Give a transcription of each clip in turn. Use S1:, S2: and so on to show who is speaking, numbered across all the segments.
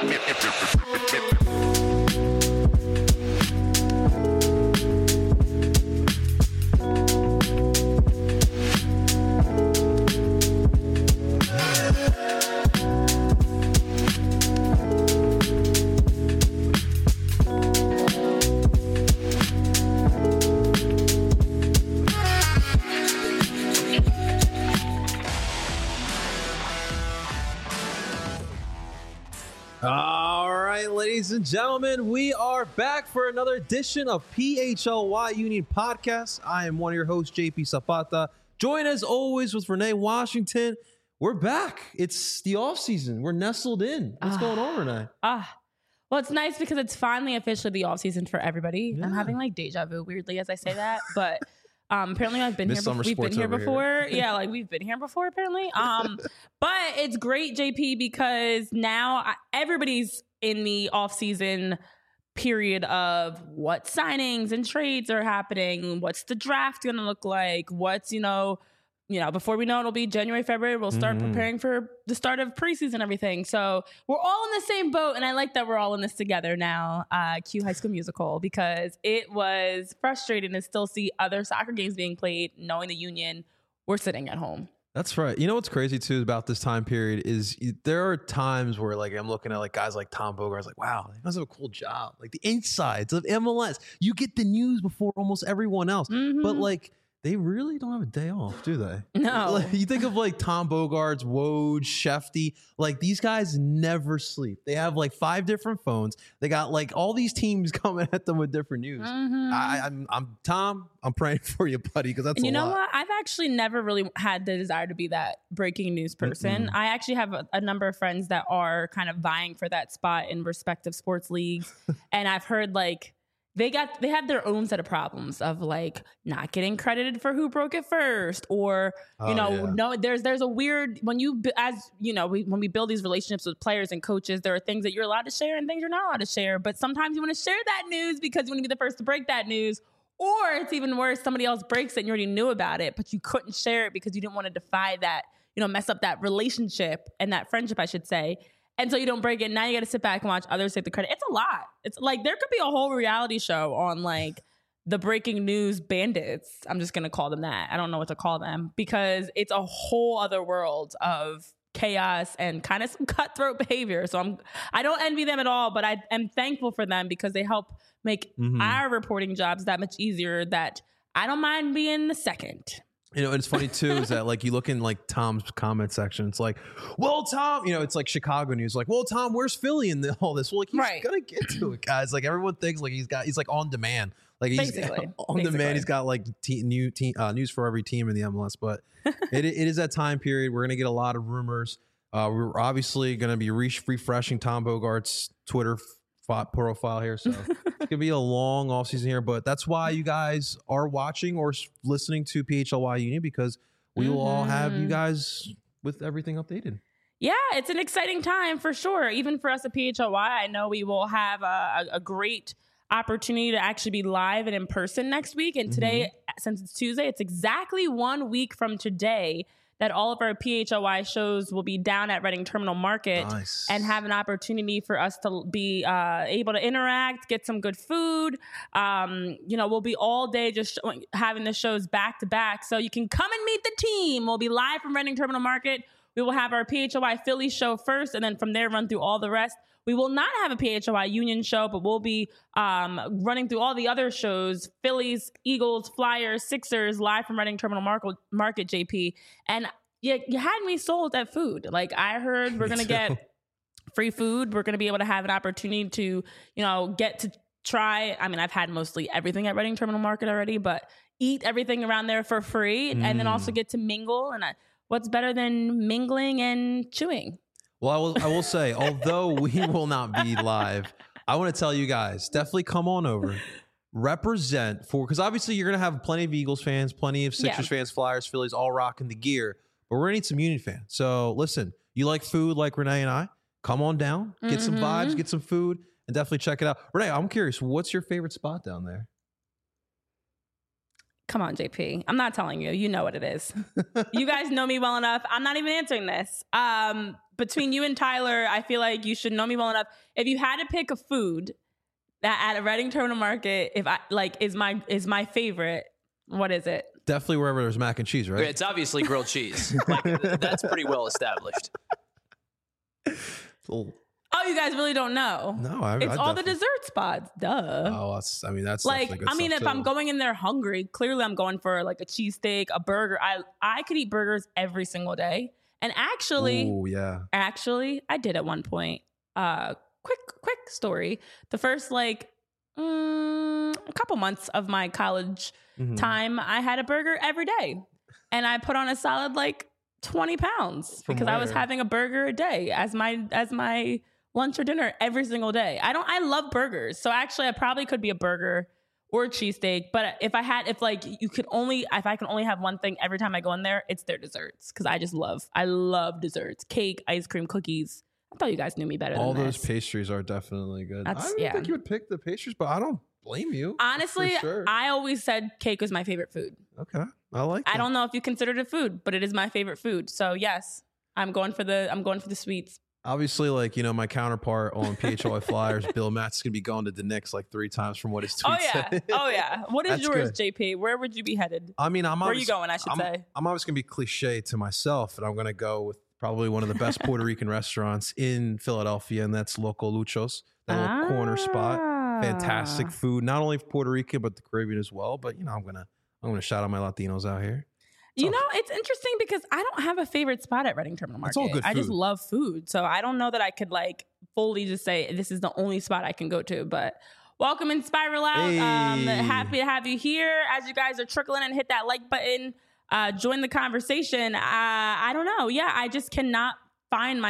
S1: Ladies and gentlemen, we are back for another edition of PHLY Union Podcast. I am one of your hosts, JP Zapata. Joined as always with Renee Washington. We're back. It's the off season. We're nestled in. What's going on, Renee?
S2: Well, it's nice because it's finally officially the off season for everybody. Yeah. I'm having like deja vu weirdly as I say that, but apparently I've been here. We've been here before. Yeah, like we've been here before apparently. But it's great, JP, because now everybody's in the off-season period of what signings and trades are happening, what's the draft going to look like, what's, before we know it'll be January, February, we'll start preparing for the start of preseason and everything. So we're all in the same boat, and I like that we're all in this together now, cue High School Musical, because it was frustrating to still see other soccer games being played, knowing the Union were sitting at home.
S1: That's right. You know what's crazy too about this time period is there are times where like I'm looking at like guys like Tom Bogart, like, wow, he must have a cool job. Like the insides of MLS, you get the news before almost everyone else. But like they really don't have a day off, do they?
S2: No.
S1: Like, you think of like Tom Bogarts, Woj, Shefty, like these guys never sleep. They have like 5 different phones. They got like all these teams coming at them with different news. I'm Tom. I'm praying for you, buddy, because that's
S2: and
S1: a lot.
S2: You know what? I've actually never really had the desire to be that breaking news person. I actually have a number of friends that are kind of vying for that spot in respective sports leagues, and I've heard like they have their own set of problems of like not getting credited for who broke it first, or no, there's a weird when we build these relationships with players and coaches, there are things that you're allowed to share and things you're not allowed to share. But sometimes you want to share that news because you want to be the first to break that news, or it's even worse, somebody else breaks it and you already knew about it, but you couldn't share it because you didn't want to defy that, mess up that relationship and that friendship, I should say. And so you don't break it. Now you got to sit back and watch others take the credit. It's a lot. It's like there could be a whole reality show on like the breaking news bandits. I'm just going to call them that. I don't know what to call them because it's a whole other world of chaos and kind of some cutthroat behavior. So I don't envy them at all, but I am thankful for them because they help make our reporting jobs that much easier, that I don't mind being the second.
S1: And it's funny too, is that like you look in like Tom's comment section, it's like, well, Tom, it's like Chicago news, like, well, Tom, where's Philly in all this? Well, like he's gonna get to it, guys. Like everyone thinks like he's like on demand, like he's on demand. He's got like news for every team in the MLS. But it is that time period. We're gonna get a lot of rumors. We're obviously gonna be refreshing Tom Bogart's Twitter profile here, so it's gonna be a long off season here, but that's why you guys are watching or listening to PHLY Union, because we will all have you guys with everything updated.
S2: Yeah, it's an exciting time for sure. Even for us at PHLY, I know we will have a great opportunity to actually be live and in person next week. And today, since it's Tuesday, it's exactly 1 week from today that all of our PHLY shows will be down at Reading Terminal Market and have an opportunity for us to be able to interact, get some good food. We'll be all day just having the shows back to back. So you can come and meet the team. We'll be live from Reading Terminal Market. We will have our PHLY Philly show first, and then from there run through all the rest. We will not have a PHLY Union show, but we'll be running through all the other shows: Phillies, Eagles, Flyers, Sixers, live from Reading Terminal Market, JP. And you had me sold at food. Like I heard we're going to get free food. We're going to be able to have an opportunity to, get to try. I mean, I've had mostly everything at Reading Terminal Market already, but eat everything around there for free and then also get to mingle. And what's better than mingling and chewing?
S1: Well, I will say, although we will not be live, I want to tell you guys, definitely come on over, represent because obviously you're going to have plenty of Eagles fans, plenty of Sixers fans, Flyers, Phillies, all rocking the gear, but we're going to need some Union fans. So listen, you like food like Renee and I, come on down, get some vibes, get some food, and definitely check it out. Renee, I'm curious, what's your favorite spot down there?
S2: Come on, JP. I'm not telling you. You know what it is. You guys know me well enough. I'm not even answering this. between you and Tyler, I feel like you should know me well enough. If you had to pick a food that at a Reading Terminal Market, if I like is my favorite, what is it?
S1: Definitely wherever there's mac and cheese, right?
S3: It's obviously grilled cheese. Like, that's pretty well established.
S2: Oh, you guys really don't know?
S1: No,
S2: it's all the dessert spots. Duh.
S1: Oh, that's
S2: like,
S1: good
S2: I mean, if
S1: too.
S2: I'm going in there hungry, clearly I'm going for like a cheesesteak, a burger. I could eat burgers every single day. And actually, I did at one point. Quick story. The first like a couple months of my college time, I had a burger every day, and I put on a solid like 20 pounds because I was having a burger a day as my lunch or dinner every single day. I love burgers, so actually I probably could be a burger or a cheesesteak. But if I can only have one thing every time I go in there, it's their desserts, because I love desserts, cake, ice cream, cookies. I thought you guys knew me better than
S1: all
S2: this.
S1: those pastries are definitely good. I don't think you would pick the pastries, but I don't blame you.
S2: Honestly,
S1: sure.
S2: I always said cake was my favorite food.
S1: Okay, I like that.
S2: I don't know if you considered it food, but it is my favorite food. So yes, I'm going for the sweets.
S1: Obviously, like, my counterpart on PHLY Flyers, Bill Matt's going to be going to the Knicks like 3 times from what his tweet said.
S2: Oh, yeah. What is
S1: That's
S2: yours,
S1: good.
S2: JP? Where would you be headed?
S1: I mean,
S2: where are you going, I should say?
S1: I'm always going to be cliche to myself, and I'm going to go with probably one of the best Puerto Rican restaurants in Philadelphia, and that's Loco Luchos, that little corner spot. Fantastic food, not only for Puerto Rican, but the Caribbean as well. But, I'm going to shout out my Latinos out here.
S2: It's interesting because I don't have a favorite spot at Reading Terminal Market.
S1: It's all good food.
S2: I just love food. So I don't know that I could like fully just say this is the only spot I can go to. But welcome and Spiral Out.
S1: Hey.
S2: Happy to have you here. As you guys are trickling in, hit that like button. Join the conversation. I don't know. Yeah, I just cannot find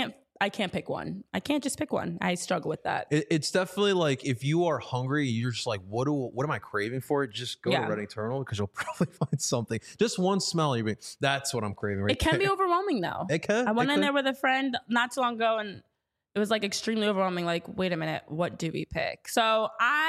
S2: I can't pick one. I can't just pick one. I struggle with that.
S1: It's definitely like, if you are hungry, you're just like, what am I craving for? Just go to Reading Terminal, because you'll probably find something. Just one smell, you'll be, that's what I'm craving right
S2: It can
S1: there.
S2: be overwhelming though.
S1: It can.
S2: I went in there with a friend not too long ago, and it was like extremely overwhelming. Like, wait a minute, what do we pick? So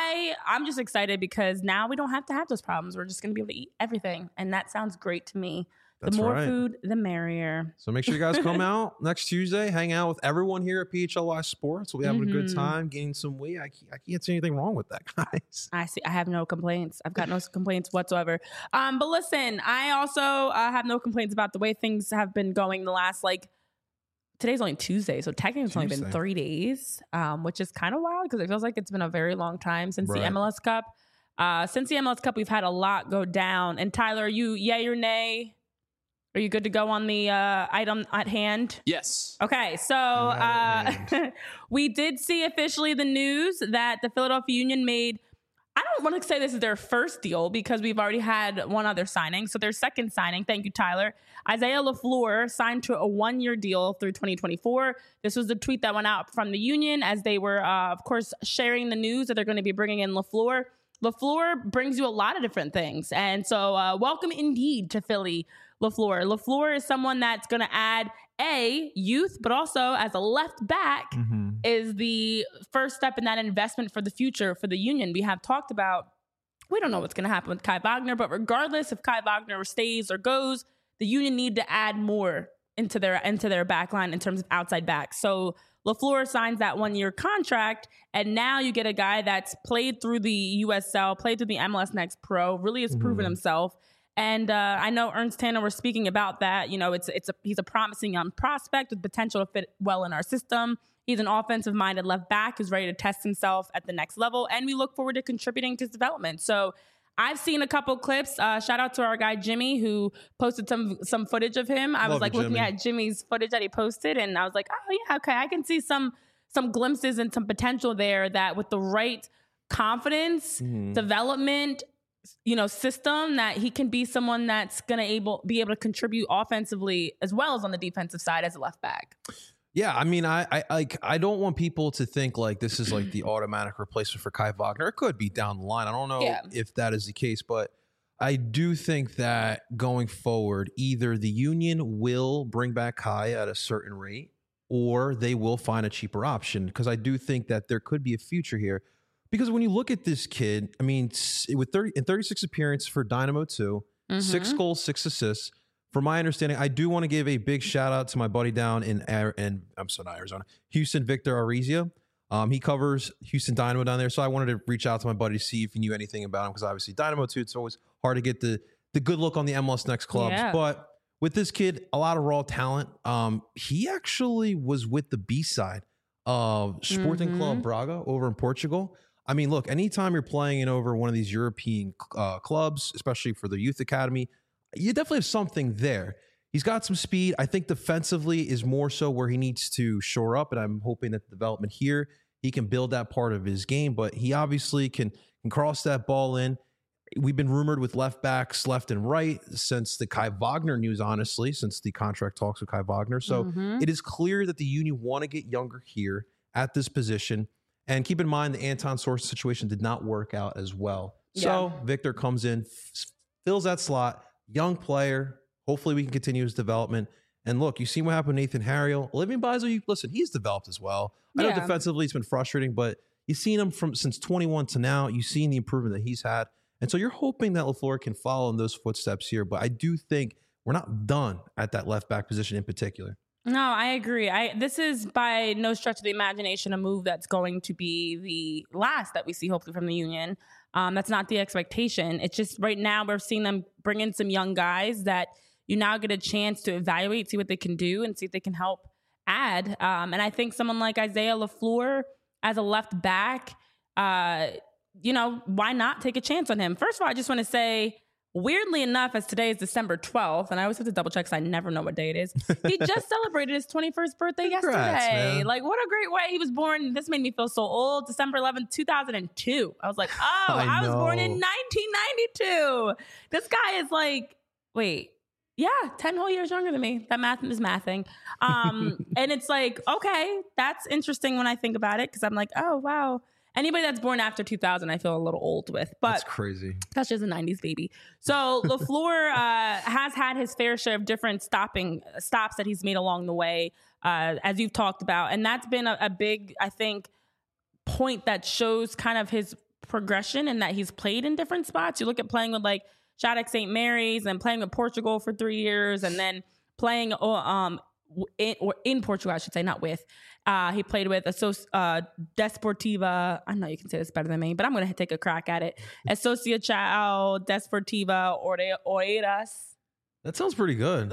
S2: I'm just excited because now we don't have to have those problems. We're just going to be able to eat everything. And that sounds great to me.
S1: That's
S2: the more
S1: right.
S2: food, the merrier.
S1: So make sure you guys come out next Tuesday, hang out with everyone here at PHLY Sports. We'll be having a good time, gaining some weight. I can't see anything wrong with that, guys.
S2: I have no complaints. I've got no complaints whatsoever. But listen, I also have no complaints about the way things have been going the last, today's only Tuesday, so technically it's only been 3 days, which is kind of wild because it feels like it's been a very long time since the MLS Cup. Since the MLS Cup, we've had a lot go down. And Tyler, are you yay or nay? Are you good to go on the item at hand?
S3: Yes.
S2: Okay, so we did see officially the news that the Philadelphia Union made. I don't want to say this is their first deal because we've already had one other signing. So their second signing, thank you, Tyler. Isaiah LaFleur signed to a 1-year deal through 2024. This was the tweet that went out from the Union as they were, of course, sharing the news that they're going to be bringing in LaFleur. LaFleur brings you a lot of different things. And so welcome indeed to Philly, LaFleur. LaFleur is someone that's going to add youth, but also as a left back is the first step in that investment for the future for the Union. We have talked about, we don't know what's going to happen with Kai Wagner, but regardless if Kai Wagner stays or goes, the Union need to add more into their back line in terms of outside backs. So LaFleur signs that 1-year contract, and now you get a guy that's played through the USL, played through the MLS Next Pro, really has proven himself. And I know Ernst Tanner was speaking about that. He's a promising young prospect with potential to fit well in our system. He's an offensive-minded left back who's ready to test himself at the next level, and we look forward to contributing to his development. So I've seen a couple clips. Shout out to our guy Jimmy, who posted some footage of him. I was looking at Jimmy's footage that he posted, and I was like, oh yeah, okay, I can see some glimpses and some potential there that with the right confidence, development, system, that he can be someone that's going to be able to contribute offensively as well as on the defensive side as a left back.
S1: Yeah, I mean, I don't want people to think like this is like the automatic replacement for Kai Wagner. It could be down the line. I don't know if that is the case, but I do think that going forward, either the Union will bring back Kai at a certain rate or they will find a cheaper option, because I do think that there could be a future here. Because when you look at this kid, I mean, with 36 appearances for Dynamo 2, 6 goals, 6 assists, from my understanding, I do want to give a big shout out to my buddy down in Arizona, Houston, Victor Arizia. He covers Houston Dynamo down there. So I wanted to reach out to my buddy to see if he knew anything about him, because obviously Dynamo too, it's always hard to get the good look on the MLS Next clubs.
S2: Yeah.
S1: But with this kid, a lot of raw talent. He actually was with the B side of Sporting Club Braga over in Portugal. I mean, look, anytime you're playing in over one of these European clubs, especially for the youth academy, you definitely have something there. He's got some speed. I think defensively is more so where he needs to shore up, and I'm hoping that the development here, he can build that part of his game, but he obviously can cross that ball in. We've been rumored with left backs left and right since the Kai Wagner news, honestly, since the contract talks with Kai Wagner. So it is clear that the Union want to get younger here at this position. And keep in mind, the Anton Source situation did not work out as well. Yeah. So Victor comes in, fills that slot, young player. Hopefully we can continue his development. And look, you see what happened to Nathan Harriel. Olivier Beisel, listen, he's developed as well. I know defensively it's been frustrating, but you've seen him since 21 to now. You've seen the improvement that he's had. And so you're hoping that LaFleur can follow in those footsteps here. But I do think we're not done at that left back position in particular.
S2: No, I agree. This is by no stretch of the imagination a move that's going to be the last that we see, hopefully, from the Union. That's not the expectation. It's just right now we're seeing them bring in some young guys that you now get a chance to evaluate, see what they can do, and see if they can help add. And I think someone like Isaiah LaFleur as a left back, why not take a chance on him? First of all, I just want to say, weirdly enough, as today is December 12th, and I always have to double check because I never know what day it is. He just celebrated his 21st birthday yesterday.
S1: Man.
S2: Like, what a great way. He was born, this made me feel so old, December 11th, 2002. I was like, I was born in 1992. This guy is like, wait, 10 whole years younger than me. That math is mathing. And it's like, okay, that's interesting when I think about it, because I'm like, oh, wow. Anybody that's born after 2000, I feel a little old with. But
S1: that's crazy.
S2: That's just a 90s baby. So LaFleur has had his fair share of different stops that he's made along the way, as you've talked about. And that's been a big, I think, point that shows kind of his progression, and that he's played in different spots. You look at playing with like Shattuck St. Mary's, and playing with Portugal for 3 years, and then playing in Portugal, I should say, not with. He played with Desportiva. I know you can say this better than me, but I'm going to take a crack at it. Associação Desportiva Oeiras.
S1: That sounds pretty good.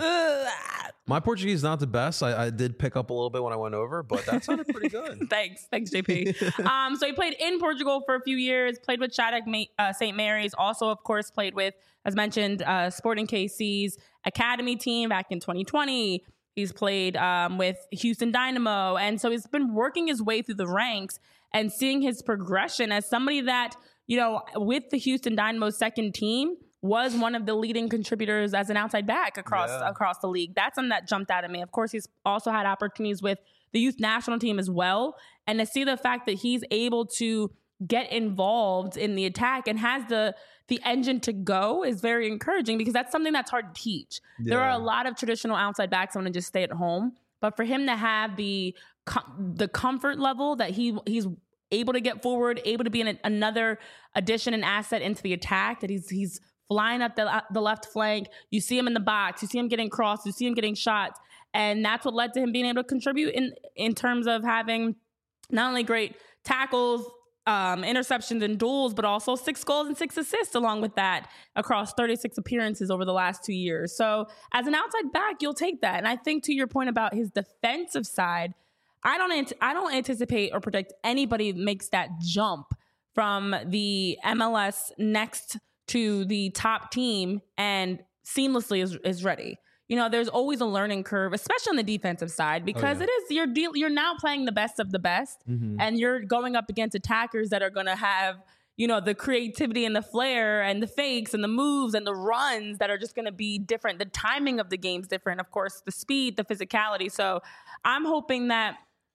S1: My Portuguese is not the best. I did pick up a little bit when I went over, but that sounded pretty good.
S2: Thanks, JP. So he played in Portugal for a few years, played with Shattuck St. Mary's, also, of course, played with, as mentioned, Sporting KC's academy team back in 2020. He's played with Houston Dynamo. And so he's been working his way through the ranks and seeing his progression as somebody that, with the Houston Dynamo second team, was one of the leading contributors as an outside back across the league. That's something that jumped out at me. Of course, he's also had opportunities with the youth national team as well. And to see the fact that he's able to get involved in the attack and has the engine to go is very encouraging, because that's something that's hard to teach. Yeah. There are a lot of traditional outside backs that want to just stay at home, but for him to have the comfort level that he's able to get forward, able to be another addition and asset into the attack, that he's flying up the left flank. You see him in the box, you see him getting crossed, you see him getting shots, and that's what led to him being able to contribute in terms of having not only great tackles, interceptions and duels, but also 6 goals and 6 assists along with that across 36 appearances over the last 2 years. So as an outside back, you'll take that. And I think to your point about his defensive side, I don't anticipate or predict anybody makes that jump from the MLS next to the top team and seamlessly is ready. There's always a learning curve, especially on the defensive side, because it is you're now playing the best of the best, and you're going up against attackers that are going to have, the creativity and the flair and the fakes and the moves and the runs that are just going to be different. The timing of the game's different, of course, the speed, the physicality. So I'm hoping that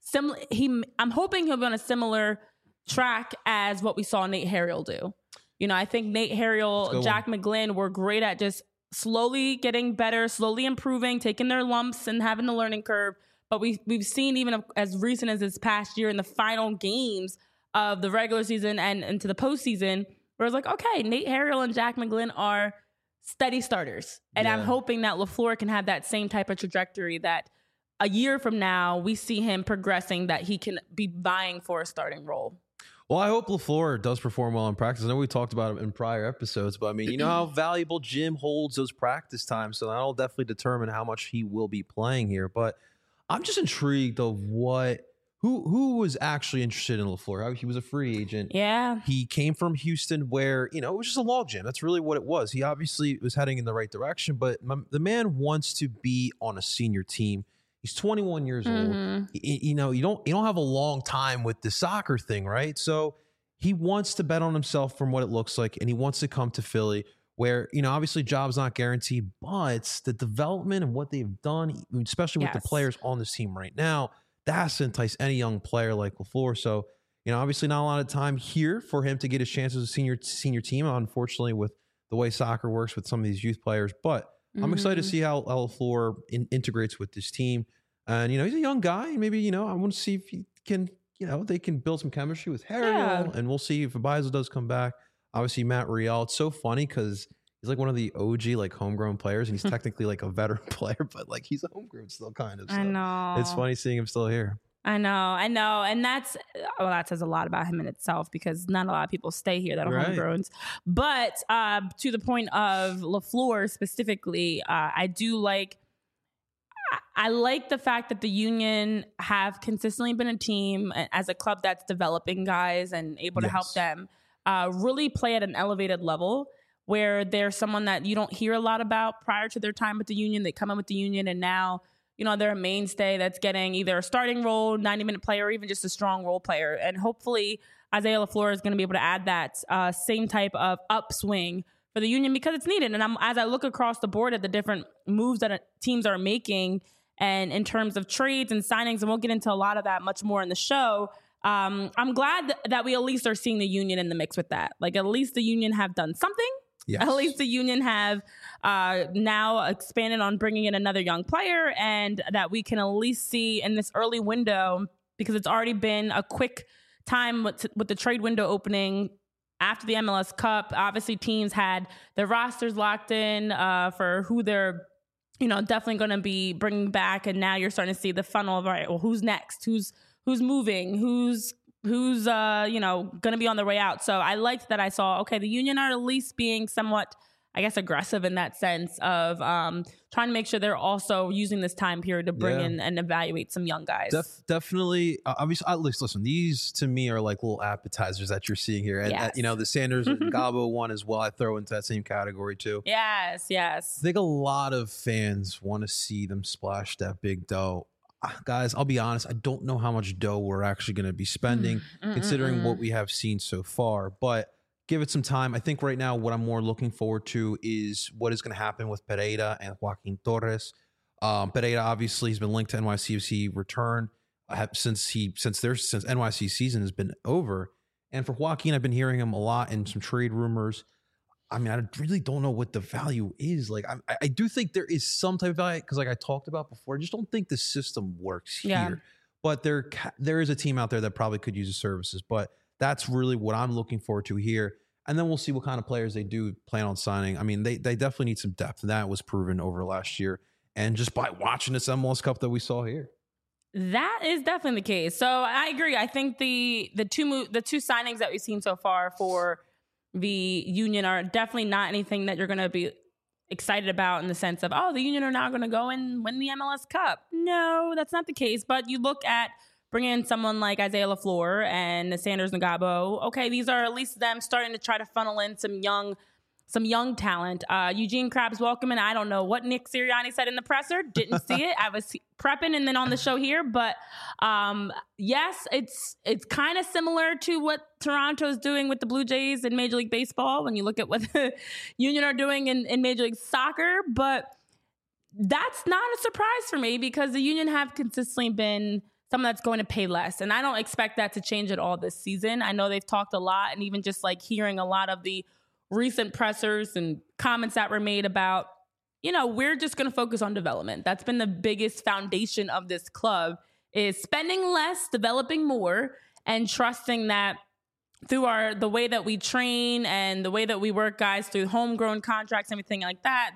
S2: he'll be on a similar track as what we saw Nate Harriel do. I think Nate Harriel, Jack McGlynn were great at just slowly getting better, slowly improving, taking their lumps and having the learning curve. But we've seen, even as recent as this past year, in the final games of the regular season and into the postseason, where it's like, okay, Nate Harriel and Jack McGlynn are steady starters. And I'm hoping that LaFleur can have that same type of trajectory, that a year from now we see him progressing, that he can be vying for a starting role.
S1: Well, I hope LaFleur does perform well in practice. I know we talked about it in prior episodes, but I mean, you know how valuable Jim holds those practice times, so that'll definitely determine how much he will be playing here. But I'm just intrigued of who was actually interested in LaFleur. He was a free agent.
S2: Yeah.
S1: He came from Houston where, you know, it was just a logjam. That's really what it was. He obviously was heading in the right direction, but the man wants to be on a senior team. He's 21 years old. You know, you don't have a long time with the soccer thing, right? So he wants to bet on himself from what it looks like, and he wants to come to Philly where, you know, obviously job's not guaranteed, but the development and what they've done, especially with the players on this team right now, that has to entice any young player like LaFleur. So, you know, obviously not a lot of time here for him to get his chance as a senior team, unfortunately, with the way soccer works with some of these youth players. But I'm excited to see how LaFleur integrates with this team. And, you know, he's a young guy. Maybe, you know, I want to see if he can, you know, they can build some chemistry with Harriel. And we'll see if Abiza does come back. Obviously, Matt Riel. It's so funny because he's like one of the OG, like, homegrown players. And he's technically like a veteran player, but like he's a homegrown still kind of. So
S2: I know.
S1: It's funny seeing him still here.
S2: I know. And that says a lot about him in itself, because not a lot of people stay here that are homegrowns. But to the point of LaFleur specifically, I like the fact that the Union have consistently been a team as a club that's developing guys and able to help them really play at an elevated level, where they're someone that you don't hear a lot about prior to their time with the Union. They come in with the Union and now, you know, they're a mainstay that's getting either a starting role, 90-minute player, or even just a strong role player. And hopefully Isaiah LaFleur is going to be able to add that same type of upswing for the Union, because it's needed. And as I look across the board at the different moves that teams are making, and in terms of trades and signings, and we'll get into a lot of that much more in the show, I'm glad that we at least are seeing the Union in the mix with that. Like, at least the Union have done something. Yes. At least the Union have now expanded on bringing in another young player, and that we can at least see in this early window, because it's already been a quick time with the trade window opening after the MLS Cup. Obviously, teams had their rosters locked in for who they're, you know, definitely going to be bringing back, and now you're starting to see the funnel of, all right, well, who's next? Who's moving? Who's you know, going to be on their way out. So I liked that I saw, okay, the Union are at least being somewhat, I guess, aggressive in that sense of trying to make sure they're also using this time period to bring in and evaluate some young guys.
S1: Definitely. Obviously, listen, these to me are like little appetizers that you're seeing here. And, you know, the Sanders and Gabo one as well, I throw into that same category too.
S2: Yes.
S1: I think a lot of fans want to see them splash that big dough. Guys, I'll be honest, I don't know how much dough we're actually going to be spending considering what we have seen so far, but give it some time. I think right now what I'm more looking forward to is what is going to happen with Pereira and Joaquin Torres. Pereira obviously has been linked to NYCFC return since NYC season has been over. And for Joaquin, I've been hearing him a lot in some trade rumors. I mean, I really don't know what the value is. Like, I do think there is some type of value, because like I talked about before, I just don't think the system works here. But there is a team out there that probably could use the services. But that's really what I'm looking forward to here. And then we'll see what kind of players they do plan on signing. I mean, they definitely need some depth. And that was proven over last year. And just by watching this MLS Cup that we saw here.
S2: That is definitely the case. So I agree. I think the two signings that we've seen so far for the Union are definitely not anything that you're going to be excited about in the sense of, oh, the Union are now going to go and win the MLS Cup. No, that's not the case. But you look at bringing in someone like Isaiah LaFleur and Sanders Ngabo. Okay, these are at least them starting to try to funnel in some young talent. Eugene Krabs Welcome, I don't know what Nick Sirianni said in the presser. Didn't see it. I was prepping and then on the show here. But yes, it's kind of similar to what Toronto's doing with the Blue Jays in Major League Baseball when you look at what the Union are doing in Major League Soccer. But that's not a surprise for me, because the Union have consistently been someone that's going to pay less. And I don't expect that to change at all this season. I know they've talked a lot, and even just like hearing a lot of the recent pressers and comments that were made about, you know, we're just going to focus on development. That's been the biggest foundation of this club, is spending less, developing more, and trusting that through the way that we train and the way that we work guys through homegrown contracts, everything like that,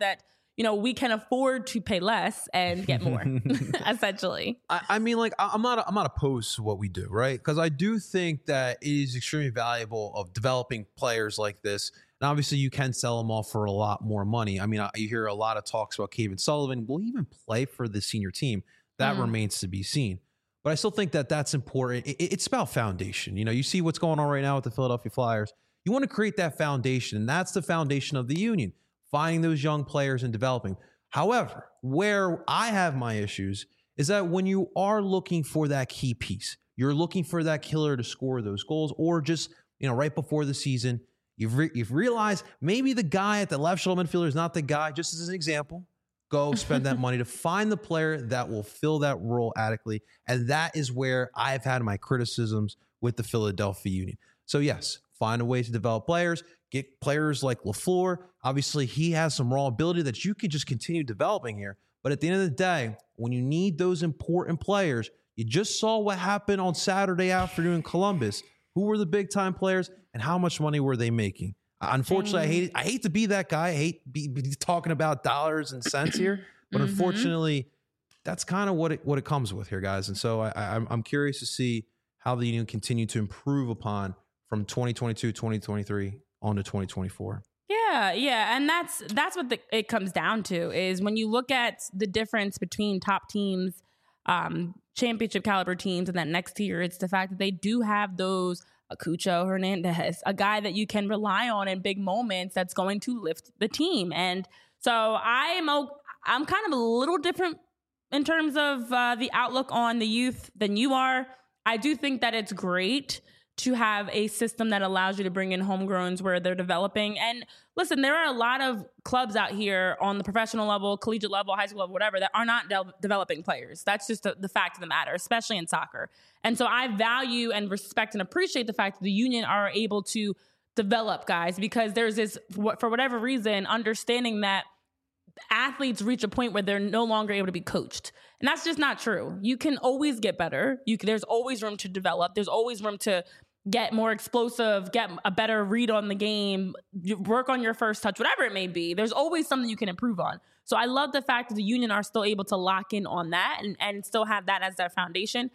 S2: we can afford to pay less and get more, essentially.
S1: I mean, like, I'm not opposed to what we do, right? Because I do think that it is extremely valuable of developing players like this. And obviously, you can sell them off for a lot more money. I mean, you hear a lot of talks about Kevin Sullivan. Will he even play for the senior team? That remains to be seen. But I still think that that's important. It's about foundation. You see what's going on right now with the Philadelphia Flyers. You want to create that foundation, and that's the foundation of the union. Finding those young players and developing. However, where I have my issues is that when you are looking for that key piece, you're looking for that killer to score those goals, or just, right before the season, you've realized maybe the guy at the left shoulder midfielder is not the guy. Just as an example, go spend that money to find the player that will fill that role adequately. And that is where I've had my criticisms with the Philadelphia Union. So yes, find a way to develop players. Get players like LaFleur. Obviously, he has some raw ability that you could just continue developing here. But at the end of the day, when you need those important players, you just saw what happened on Saturday afternoon in Columbus. Who were the big-time players and how much money were they making? Unfortunately, I hate to be that guy. I hate be talking about dollars and cents here. But unfortunately, that's kind of what it comes with here, guys. And so I'm curious to see how the union continue to improve upon from 2022, 2023 on to 2024.
S2: Yeah. And that's what it comes down to, is when you look at the difference between top teams, championship caliber teams, and that next tier, it's the fact that they do have those Acucho Hernandez, a guy that you can rely on in big moments that's going to lift the team. And so I'm kind of a little different in terms of the outlook on the youth than you are. I do think that it's great to have a system that allows you to bring in homegrowns where they're developing. And listen, there are a lot of clubs out here on the professional level, collegiate level, high school level, whatever, that are not developing players. That's just the fact of the matter, especially in soccer. And so I value and respect and appreciate the fact that the union are able to develop guys, because there's this, for whatever reason, understanding that athletes reach a point where they're no longer able to be coached. And that's just not true. You can always get better. There's always room to develop. There's always room to get more explosive, get a better read on the game, work on your first touch, whatever it may be. There's always something you can improve on. So I love the fact that the union are still able to lock in on that and still have that as their foundation.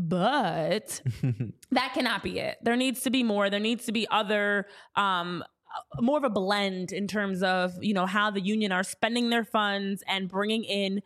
S2: But that cannot be it. There needs to be more. There needs to be other, more of a blend in terms of, how the union are spending their funds and bringing in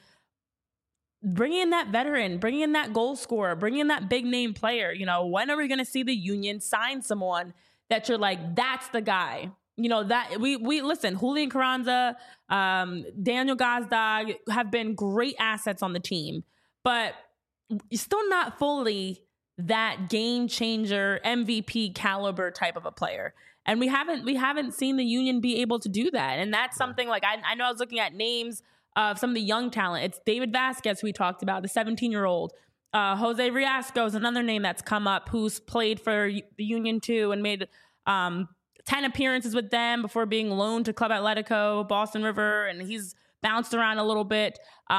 S2: that veteran, bringing in that goal scorer, bringing in that big name player. When are we going to see the union sign someone that you're like, that's the guy? That we listen, Julian Carranza, Daniel Gazdag have been great assets on the team, but still not fully that game changer, MVP caliber type of a player. And we haven't seen the union be able to do that. And that's something like, I know I was looking at names of some of the young talent. It's David Vasquez, who we talked about, the 17-year-old. Jose Riasco is another name that's come up, who's played for the Union too and made 10 appearances with them before being loaned to Club Atletico, Boston River, and he's bounced around a little bit.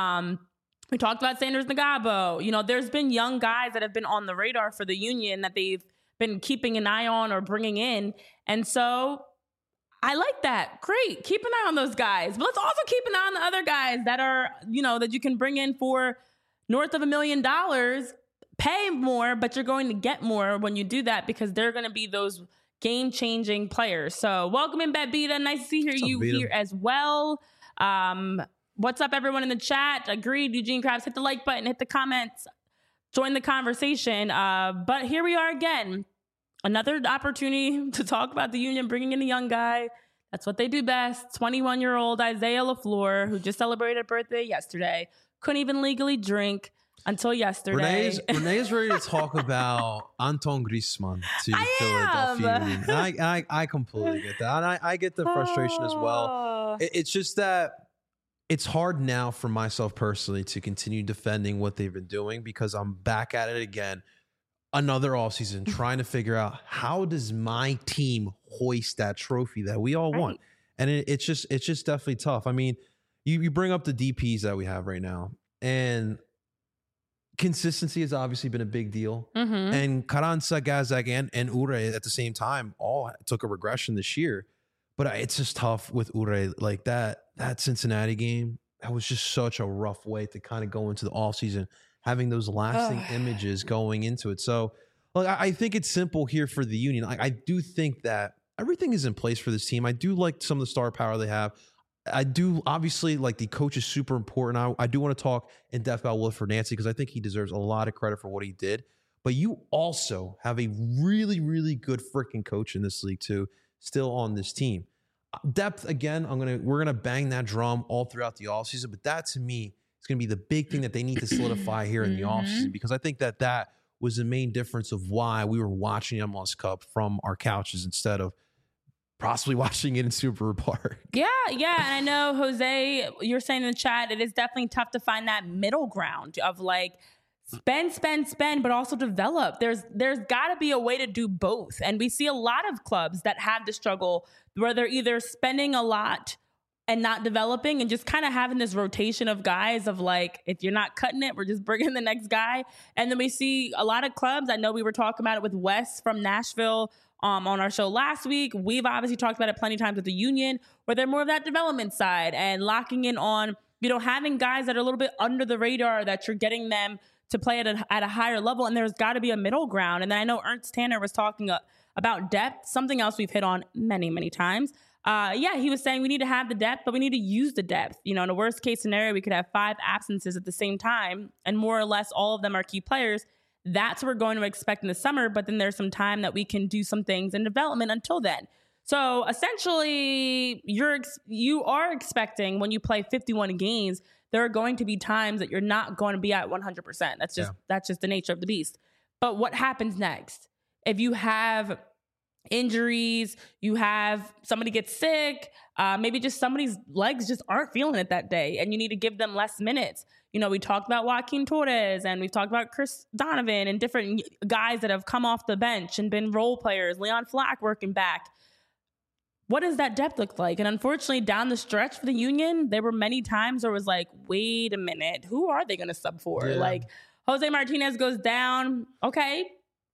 S2: We talked about Sanders Nagabo. There's been young guys that have been on the radar for the Union that they've been keeping an eye on or bringing in. And so I like that. Great. Keep an eye on those guys. But let's also keep an eye on the other guys that are, that you can bring in for north of $1 million, pay more, but you're going to get more when you do that, because they're going to be those game-changing players. So welcome in, Bebita. Nice to see you here as well. What's up, everyone in the chat? Agreed, Eugene Krabs. Hit the like button, hit the comments, join the conversation. But here we are again. Another opportunity to talk about the union bringing in a young guy. That's what they do best. 21-year-old Isaiah LaFleur, who just celebrated a birthday yesterday. Couldn't even legally drink until yesterday.
S1: Renee's ready to talk about Anton Griezmann to Philadelphia Union. I completely get that. And I get the frustration as well. It's just that it's hard now for myself personally to continue defending what they've been doing, because I'm back at it again. Another offseason trying to figure out, how does my team hoist that trophy that we all want? And it's just definitely tough. I mean, you bring up the DPs that we have right now, and consistency has obviously been a big deal. And Carranza, Gazdag, and Ure at the same time all took a regression this year. But it's just tough with Ure. Like that Cincinnati game, that was just such a rough way to kind of go into the offseason, having those lasting images going into it. So look, I think it's simple here for the Union. I do think that everything is in place for this team. I do like some of the star power they have. I do obviously like the coach is super important. I do want to talk in depth about Wilfred Nancy because I think he deserves a lot of credit for what he did. But you also have a really, really good freaking coach in this league too, still on this team. Depth, again, we're gonna bang that drum all throughout the offseason, but that to me is gonna be the big thing that they need to solidify here in the offseason, because I think that was the main difference of why we were watching the MLS Cup from our couches instead of possibly watching it in Super Park.
S2: Yeah. And I know, Jose, you're saying in the chat, it is definitely tough to find that middle ground of like spend, but also develop. There's got to be a way to do both. And we see a lot of clubs that have the struggle where they're either spending a lot and not developing and just kind of having this rotation of guys of like, if you're not cutting it, we're just bringing the next guy. And then we see a lot of clubs. I know we were talking about it with Wes from Nashville on our show last week. We've obviously talked about it plenty of times with the Union, where they're more of that development side and locking in on, having guys that are a little bit under the radar that you're getting them to play at a higher level. And there's got to be a middle ground. And then I know Ernst Tanner was talking about depth, something else we've hit on many, many times. He was saying we need to have the depth, but we need to use the depth. In a worst case scenario, we could have 5 absences at the same time, and more or less all of them are key players. That's what we're going to expect in the summer, but then there's some time that we can do some things in development until then. So essentially, you are expecting when you play 51 games, there are going to be times that you're not going to be at 100%. That's just the nature of the beast. But what happens next? If you have injuries, you have somebody get sick, maybe just somebody's legs just aren't feeling it that day, and you need to give them less minutes. We talked about Joaquin Torres, and we've talked about Chris Donovan and different guys that have come off the bench and been role players, Leon Flack working back. What does that depth look like? And unfortunately, down the stretch for the Union, there were many times where it was like, wait a minute, who are they going to sub for?
S1: Yeah.
S2: Like, Jose Martinez goes down. Okay,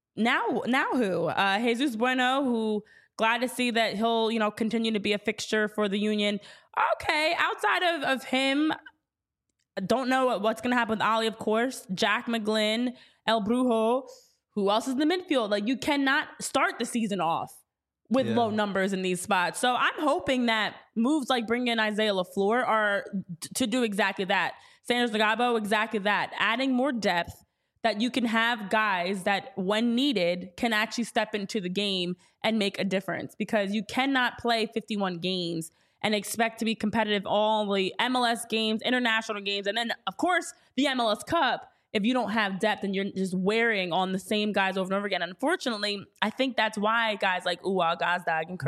S2: now who? Jesus Bueno, who glad to see that he'll, continue to be a fixture for the Union. Okay, outside of him, I don't know what's going to happen with Ali, of course. Jack McGlynn, El Brujo. Who else is in the midfield? Like, you cannot start the season off with low numbers in these spots. So I'm hoping that moves like bringing in Isaiah LaFleur are to do exactly that. Sanders Nagabo, exactly that. Adding more depth that you can have guys that, when needed, can actually step into the game and make a difference, because you cannot play 51 games and expect to be competitive all the MLS games, international games, and then, of course, the MLS Cup if you don't have depth and you're just wearing on the same guys over and over again. Unfortunately, I think that's why guys like Uwa, Gazdag,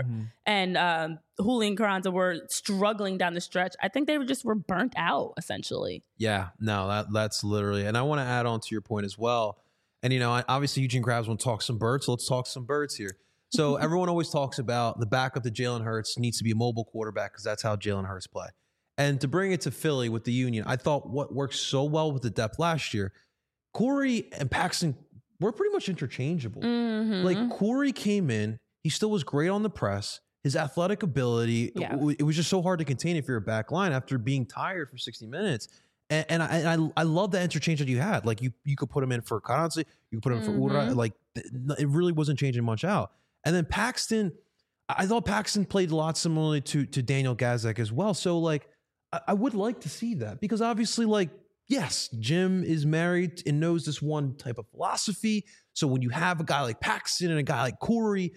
S2: and Julian Carranza were struggling down the stretch. I think they were burnt out, essentially.
S1: Yeah, no, that's literally. And I want to add on to your point as well. And, obviously Eugene Krabs want to talk some birds, so let's talk some birds here. So everyone always talks about the backup to Jalen Hurts needs to be a mobile quarterback because that's how Jalen Hurts play. And to bring it to Philly with the Union, I thought what worked so well with the depth last year, Corey and Paxton were pretty much interchangeable.
S2: Mm-hmm.
S1: Like, Corey came in, he still was great on the press. His athletic ability, it was just so hard to contain if you're a back line after being tired for 60 minutes. And I love that interchange that you had. Like, you could put him in for Carranza, you could put him in for Ura. Like, it really wasn't changing much out. And then Paxton, I thought Paxton played a lot similarly to Daniel Gazdag as well. So, like, I would like to see that, because obviously, like, yes, Jim is married and knows this one type of philosophy. So when you have a guy like Paxton and a guy like Corey,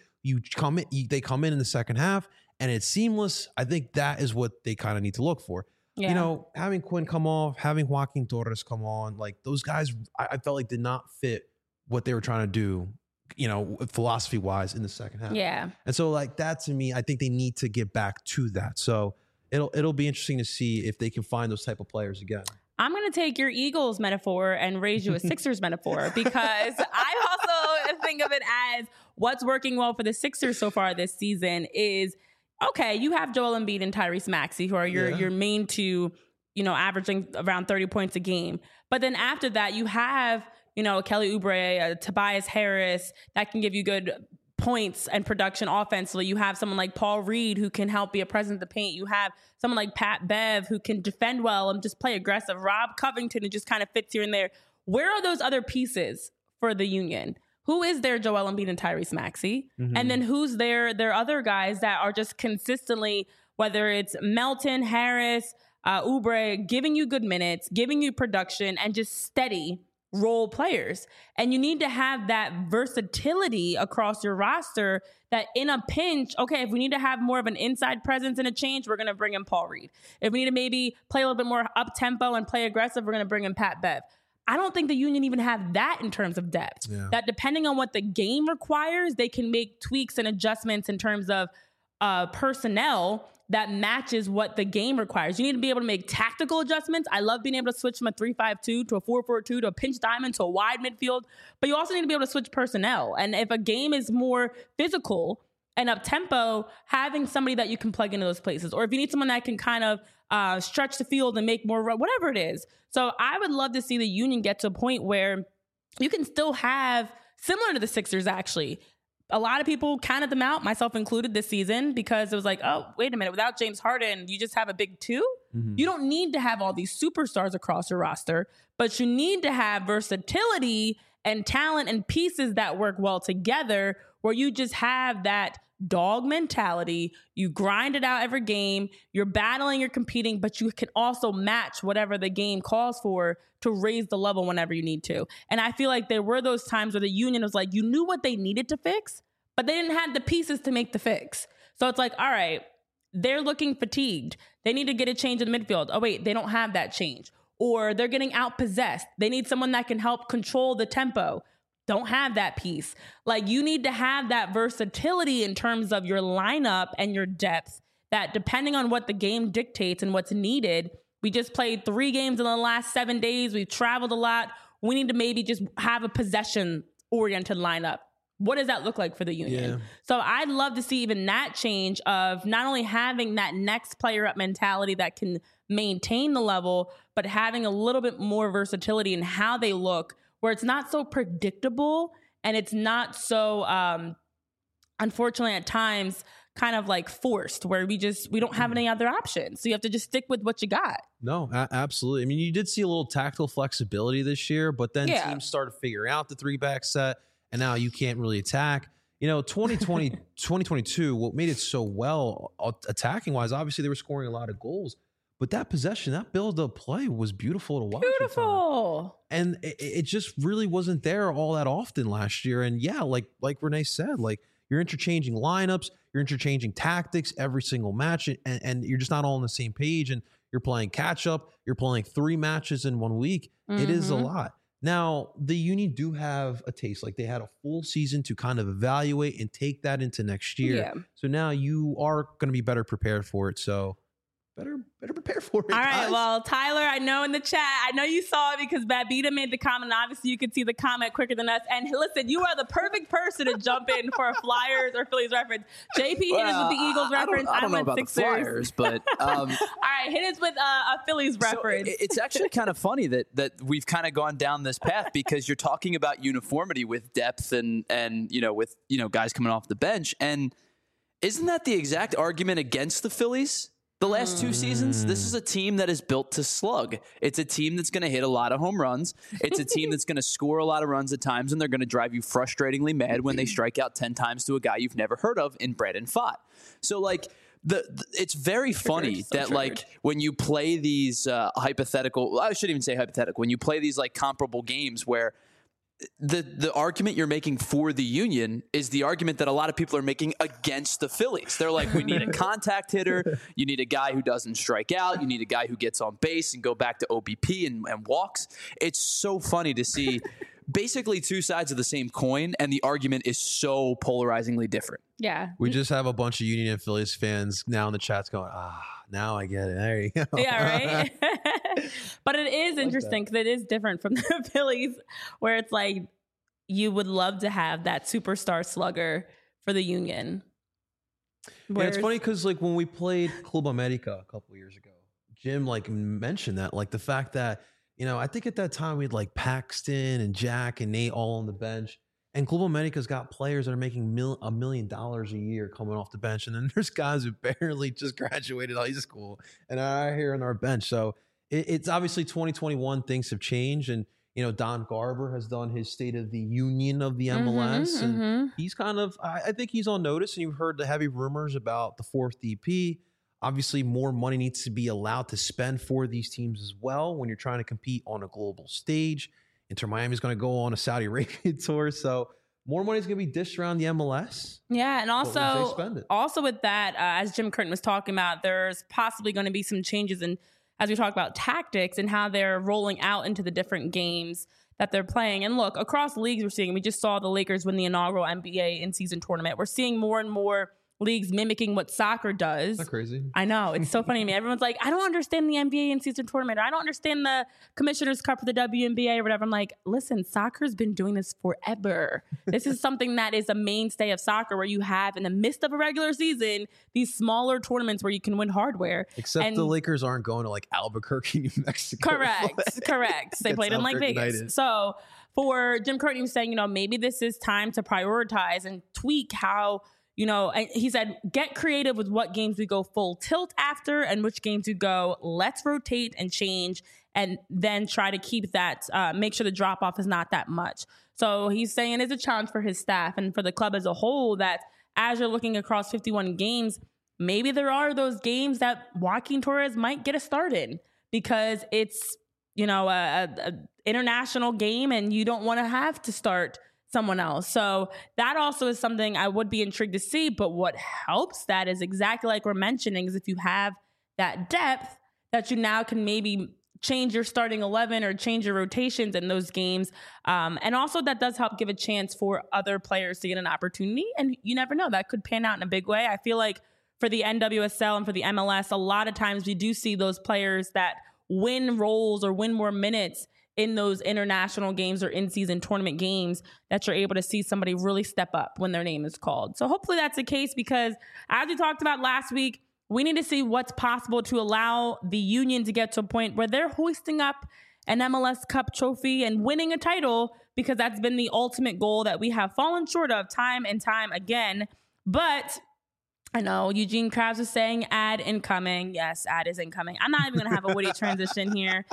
S1: they come in the second half and it's seamless. I think that is what they kind of need to look for. Yeah. Having Quinn come off, having Joaquin Torres come on, like, those guys, I felt like did not fit what they were trying to do, philosophy wise in the second half.
S2: Yeah.
S1: And so, like, that to me, I think they need to get back to that. So it'll be interesting to see if they can find those type of players again.
S2: I'm going to take your Eagles metaphor and raise you a Sixers metaphor, because I also think of it as what's working well for the Sixers so far this season is, okay, you have Joel Embiid and Tyrese Maxey, who are your main two averaging around 30 points a game. But then after that, you have, Kelly Oubre, Tobias Harris that can give you good points and production offensively. You have someone like Paul Reed who can help be a presence in the paint. You have someone like Pat Bev who can defend well and just play aggressive. Rob Covington who just kind of fits here and there. Where are those other pieces for the Union? Who is their Joel Embiid and Tyrese Maxey? Mm-hmm. And then who's their other guys that are just consistently, whether it's Melton, Harris, Oubre, giving you good minutes, giving you production, and just steady role players. And you need to have that versatility across your roster that in a pinch, okay, if we need to have more of an inside presence and a change, we're going to bring in Paul Reed. If we need to maybe play a little bit more up-tempo and play aggressive, we're going to bring in Pat Bev. I don't think the Union even have that in terms of depth. Yeah. That depending on what the game requires, they can make tweaks and adjustments in terms of personnel that matches what the game requires. You need to be able to make tactical adjustments. I love being able to switch from a 3-5-2 to a 4-4-2 to a pinch diamond to a wide midfield, but you also need to be able to switch personnel. And if a game is more physical and up tempo, having somebody that you can plug into those places, or if you need someone that can kind of stretch the field and make more, whatever it is. So I would love to see the Union get to a point where you can still have, similar to the Sixers actually, a lot of people counted them out, myself included, this season because it was like, oh, wait a minute, without James Harden, you just have a big two? Mm-hmm. You don't need to have all these superstars across your roster, but you need to have versatility and talent and pieces that work well together where you just have that dog mentality. You grind it out every game. You're battling, you're competing, but you can also match whatever the game calls for to raise the level whenever you need to. And I feel like there were those times where the Union was like, you knew what they needed to fix, but they didn't have the pieces to make the fix. So it's like, all right, they're looking fatigued. They need to get a change in the midfield. Oh, wait, they don't have that change. Or they're getting outpossessed. They need someone that can help control the tempo. Don't have that piece. Like, you need to have that versatility in terms of your lineup and your depth that depending on what the game dictates and what's needed. We just played 3 games in the last 7 days. We've traveled a lot. We need to maybe just have a possession-oriented lineup. What does that look like for the Union? Yeah. So I'd love to see even that change of not only having that next player up mentality that can maintain the level, but having a little bit more versatility in how they look, where it's not so predictable and it's not so, unfortunately at times, kind of like forced, where we don't have any other options. So you have to just stick with what you got.
S1: No, absolutely. I mean, you did see a little tactical flexibility this year, but then teams started figuring out the 3-back set, and now you can't really attack. 2020, 2022, what made it so well attacking-wise, obviously they were scoring a lot of goals. But that possession, that build-up play was beautiful to watch.
S2: Beautiful.
S1: And it just really wasn't there all that often last year. And yeah, like Renee said, like you're interchanging lineups, you're interchanging tactics every single match, and you're just not all on the same page. And you're playing catch-up. You're playing 3 matches in 1 week. Mm-hmm. It is a lot. Now, the Union do have a taste. Like they had a full season to kind of evaluate and take that into next year. Yeah. So now you are going to be better prepared for it. So better prepare for it.
S2: All right.
S1: Guys.
S2: Well, Tyler, I know in the chat, I know you saw it because Babita made the comment. Obviously, you could see the comment quicker than us. And listen, you are the perfect person to jump in for a Flyers or Phillies reference. JP hit us with the Eagles reference.
S3: I don't know about Sixers. The Flyers, but
S2: all right, hit us with a Phillies reference.
S3: So it's actually kind of funny that we've kind of gone down this path because you're talking about uniformity with depth and with guys coming off the bench, and isn't that the exact argument against the Phillies? The last 2 seasons, this is a team that is built to slug. It's a team that's going to hit a lot of home runs. It's a team that's going to score a lot of runs at times, and they're going to drive you frustratingly mad when they strike out 10 times to a guy you've never heard of in Brandon Pfaadt. So, like, it's very funny that, like, when you play these hypothetical – I shouldn't even say hypothetical. When you play these, like, comparable games where – the argument you're making for the Union is the argument that a lot of people are making against the Phillies. They're like, we need a contact hitter. You need a guy who doesn't strike out. You need a guy who gets on base and go back to OBP and walks. It's so funny to see basically 2 sides of the same coin, and the argument is so polarizingly different.
S2: Yeah.
S1: We just have a bunch of Union and Phillies fans now in the chats going, now I get it. There you go.
S2: Yeah, right? But it is interesting because it is different from the Phillies, where it's like you would love to have that superstar slugger for the Union.
S1: Yeah, it's funny because like when we played Club America a couple of years ago, Jim like mentioned that, like the fact that, I think at that time we had like Paxton and Jack and Nate all on the bench. And Global Medica's got players that are making $1 million a year coming off the bench. And then there's guys who barely just graduated high school and are here on our bench. So it's obviously 2021, things have changed. And, Don Garber has done his State of the Union of the MLS. And he's kind of, I think he's on notice. And you've heard the heavy rumors about the fourth DP. Obviously, more money needs to be allowed to spend for these teams as well when you're trying to compete on a global stage. Inter Miami is going to go on a Saudi Arabia tour, so more money is going to be dished around the MLS.
S2: Yeah, and also with that, as Jim Curtin was talking about, there's possibly going to be some changes in, as we talk about tactics and how they're rolling out into the different games that they're playing. And look, across leagues, we just saw the Lakers win the inaugural NBA in-season tournament. We're seeing more and more leagues mimicking what soccer does.
S1: Isn't that crazy?
S2: I know. It's so funny to me. Everyone's like, I don't understand the NBA in-season tournament, or I don't understand the Commissioner's Cup for the WNBA or whatever. I'm like, listen, soccer's been doing this forever. This is something that is a mainstay of soccer, where you have, in the midst of a regular season, these smaller tournaments where you can win hardware.
S1: Except the Lakers aren't going to like Albuquerque, New Mexico.
S2: Correct. They played in like Vegas. United. So for Jim Curtin, he was saying, maybe this is time to prioritize and tweak how, and he said, get creative with what games we go full tilt after and which games we go, let's rotate and change, and then try to keep that, make sure the drop off is not that much. So he's saying it's a challenge for his staff and for the club as a whole, that as you're looking across 51 games, maybe there are those games that Joaquin Torres might get a start in because it's, a international game and you don't want to have to start someone else. So that also is something I would be intrigued to see. But what helps that is exactly like we're mentioning, is if you have that depth, that you now can maybe change your starting 11 or change your rotations in those games. And also that does help give a chance for other players to get an opportunity. And you never know, that could pan out in a big way. I feel like for the NWSL and for the MLS, a lot of times we do see those players that win roles or win more minutes in those international games or in-season tournament games, that you're able to see somebody really step up when their name is called. So hopefully that's the case, because as we talked about last week, we need to see what's possible to allow the Union to get to a point where they're hoisting up an MLS Cup trophy and winning a title, because that's been the ultimate goal that we have fallen short of time and time again. But I know Eugene Krabs is saying ad incoming. Yes, ad is incoming. I'm not even going to have a witty transition here.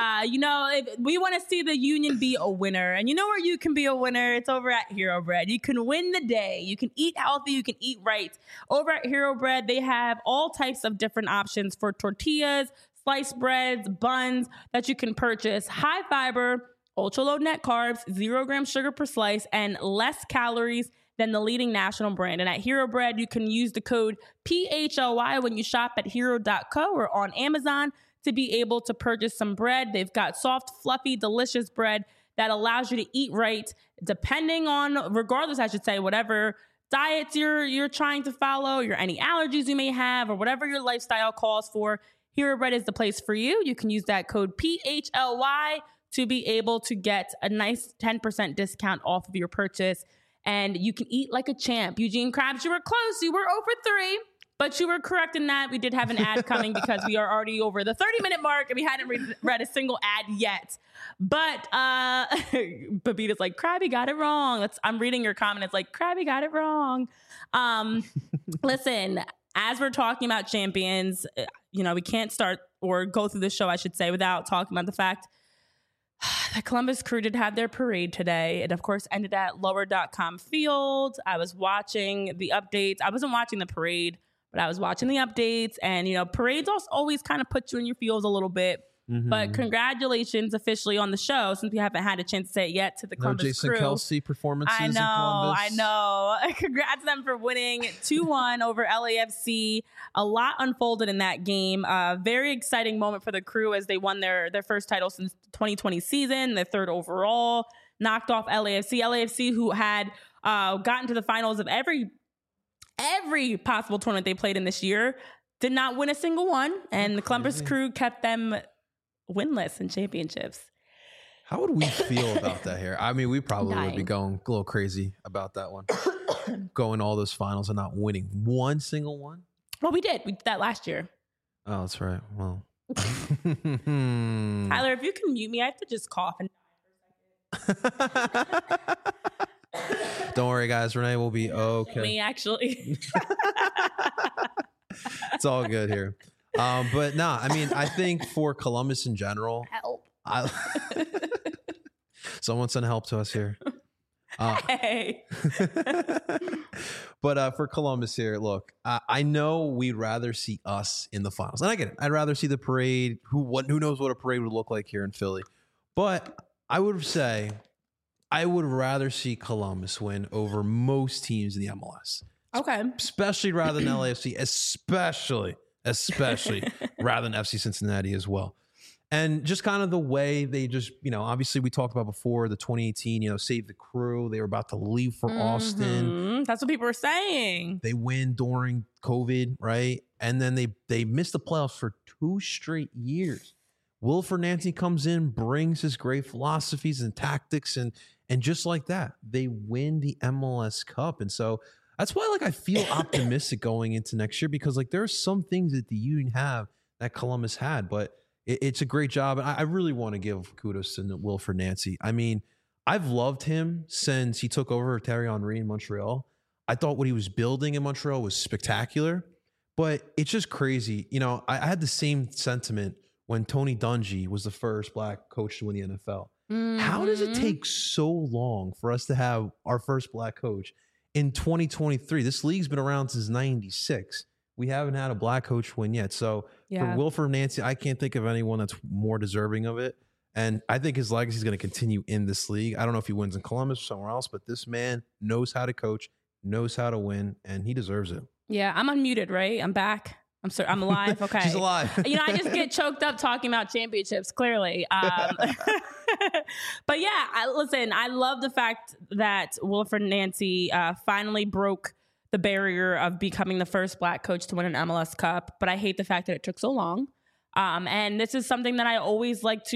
S2: If we want to see the Union be a winner, and you know where you can be a winner, it's over at Hero Bread. You can win the day. You can eat healthy. You can eat right. Over at Hero Bread, they have all types of different options for tortillas, sliced breads, buns that you can purchase. High fiber, ultra low net carbs, 0 gram sugar per slice, and less calories than the leading national brand. And at Hero Bread, you can use the code PHLY when you shop at hero.co or on Amazon to be able to purchase some bread. They've got soft, fluffy, delicious bread that allows you to eat right, regardless, I should say, whatever diets you're trying to follow, any allergies you may have, or whatever your lifestyle calls for. Hero Bread is the place for you. You can use that code PHLY to be able to get a nice 10% discount off of your purchase. And you can eat like a champ. Eugene Krabs, you were close. You were over 3, but you were correct in that. We did have an ad coming because we are already over the 30-minute mark and we hadn't read a single ad yet. But Babita's like, Krabby got it wrong. I'm reading your comment. It's like, Krabby got it wrong. Listen, as we're talking about champions, we can't start or go through the show, I should say, without talking about the fact the Columbus Crew did have their parade today. It, of course, ended at Lower.com Field. I was watching the updates. I wasn't watching the parade, but I was watching the updates. And, parades also always kind of put you in your feels a little bit. Mm-hmm. But congratulations officially on the show, since we haven't had a chance to say it yet, to the Columbus
S1: Jason
S2: Crew.
S1: Kelce performances in Columbus.
S2: I know. Congrats to them for winning 2-1 over LAFC. A lot unfolded in that game. Very exciting moment for the Crew as they won their first title since 2020 season, their 3rd overall, knocked off LAFC. LAFC, who had gotten to the finals of every possible tournament they played in this year, did not win a single one. And the Columbus Crew kept them winless in championships.
S1: How would we feel about that here? I mean, we probably would be going a little crazy about that one. Going all those finals and not winning one single one.
S2: Well, we did. We did that last year.
S1: Oh, that's right. Well,
S2: Tyler, if you can mute me, I have to just cough and
S1: Don't worry, guys. Renee will be okay.
S2: me actually.
S1: It's all good here. But nah, I mean, I think for Columbus in general,
S2: Help.
S1: Someone send help to us here.
S2: Hey.
S1: But for Columbus here, look, I know we'd rather see us in the finals, and I get it. I'd rather see the parade. Who knows what a parade would look like here in Philly? But I would say I would rather see Columbus win over most teams in the MLS.
S2: Okay.
S1: Especially rather than LAFC, especially rather than FC Cincinnati as well. And just kind of the way they just, obviously we talked about before the 2018, Save the Crew. They were about to leave for Austin.
S2: That's what people were saying.
S1: They win during COVID, right? And then they missed the playoffs for 2 straight years. Wilfred Nancy comes in, brings his great philosophies and tactics, and just like that, they win the MLS Cup. And so that's why I feel optimistic going into next year, because there are some things that the Union have that Columbus had, but it's a great job. And I really want to give kudos to Wilfred Nancy. I mean, I've loved him since he took over Thierry Henry in Montreal. I thought what he was building in Montreal was spectacular, but it's just crazy. I had the same sentiment when Tony Dungy was the first Black coach to win the NFL. How does it take so long for us to have our first Black coach in 2023? This league's been around since 96. We haven't had a Black coach win yet. So for Wilfred Nancy, I can't think of anyone that's more deserving of it. And I think his legacy is going to continue in this league. I don't know if he wins in Columbus or somewhere else, but this man knows how to coach, knows how to win, and he deserves it.
S2: Yeah, I'm unmuted, right? I'm back. I'm sorry, I'm alive. Okay.
S1: She's alive.
S2: I just get choked up talking about championships, clearly. But yeah, I love the fact that Wilfred Nancy finally broke the barrier of becoming the first Black coach to win an MLS Cup. But I hate the fact that it took so long. And this is something that I always I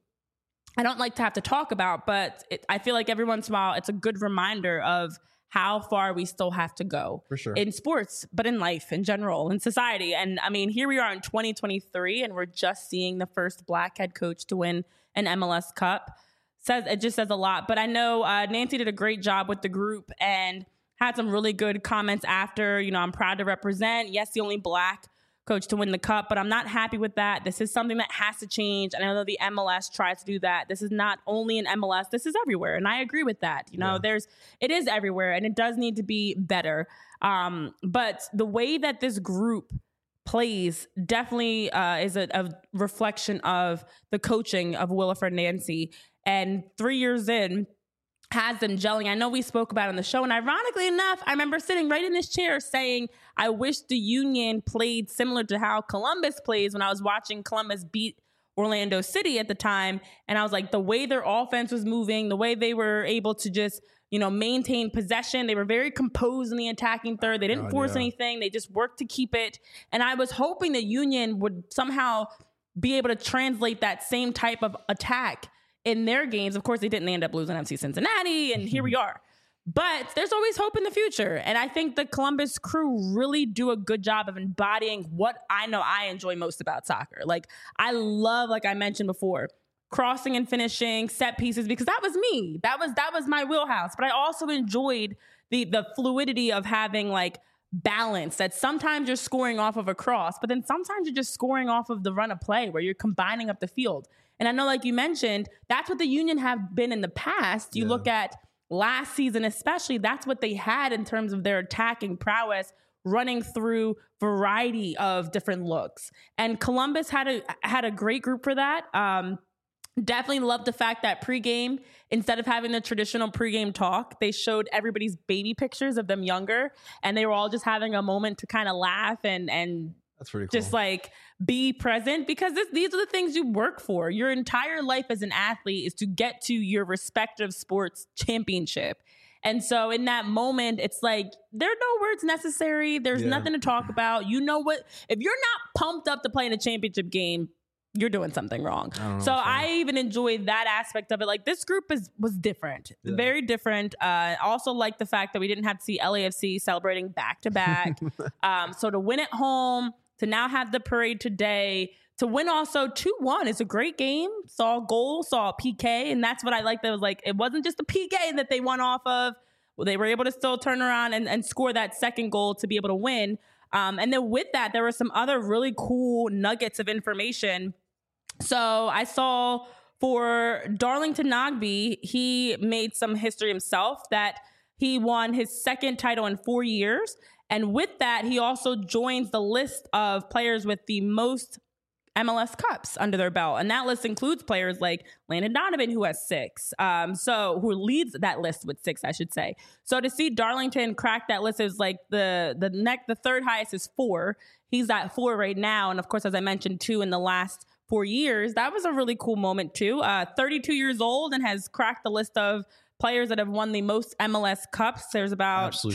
S2: don't like to have to talk about, but I feel like every once in a while, it's a good reminder of how far we still have to go.
S1: For sure.
S2: In sports, but in life in general, in society. And I mean, here we are in 2023 and we're just seeing the first Black head coach to win an MLS Cup. It just says a lot. But I know Nancy did a great job with the group and had some really good comments after. I'm proud to represent. Yes, the only Black coach to win the cup, but I'm not happy with that. This is something that has to change. And I know the MLS tries to do that. This is not only in MLS, this is everywhere. And I agree with that. It is everywhere and it does need to be better. But the way that this group plays definitely is a reflection of the coaching of Wilfred Nancy. And 3 years in, has them gelling. I know we spoke about it on the show, and ironically enough, I remember sitting right in this chair saying, I wish the Union played similar to how Columbus plays when I was watching Columbus beat Orlando City at the time. And I was like, the way their offense was moving, the way they were able to just, maintain possession. They were very composed in the attacking third. They didn't force anything. They just worked to keep it. And I was hoping the Union would somehow be able to translate that same type of attack in their games. Of course, they didn't end up losing FC Cincinnati, and here we are. But there's always hope in the future. And I think the Columbus Crew really do a good job of embodying what I know I enjoy most about soccer. I love, like I mentioned before, crossing and finishing, set pieces, because that was me. That was my wheelhouse. But I also enjoyed the fluidity of having balance, that sometimes you're scoring off of a cross, but then sometimes you're just scoring off of the run of play where you're combining up the field. And I know, like you mentioned, that's what the Union have been in the past. You look at last season especially, that's what they had in terms of their attacking prowess, running through variety of different looks. And Columbus had a great group for that. Definitely loved the fact that pregame, instead of having the traditional pregame talk, they showed everybody's baby pictures of them younger, and they were all just having a moment to kind of laugh and
S1: that's pretty cool.
S2: Just be present, because these are the things you work for. Your entire life as an athlete is to get to your respective sports championship. And so in that moment, it's there are no words necessary. There's nothing to talk about. You know what? If you're not pumped up to play in a championship game, you're doing something wrong. So I even enjoyed that aspect of it. This group was different, very different. Also like the fact that we didn't have to see LAFC celebrating back to back. So to win at home, to now have the parade today, to win also 2-1 is a great game. Saw a goal, saw a PK, and that's what I liked. That was like, it wasn't just a PK that they won off of. Well, they were able to still turn around and score that second goal to be able to win. And then with that, there were some other really cool nuggets of information. So I saw for Darlington Nagbe, he made some history himself that he won his second title in 4 years. And with that, he also joins the list of players with the most MLS Cups under their belt. And that list includes players like Landon Donovan, who has 6. Who leads that list with 6, I should say. So to see Darlington crack that list is like the third highest is 4. He's at 4 right now. And of course, as I mentioned, 2 in the last 4 years. That was a really cool moment too. 32 years old and has cracked the list of players that have won the most MLS Cups. There's about 10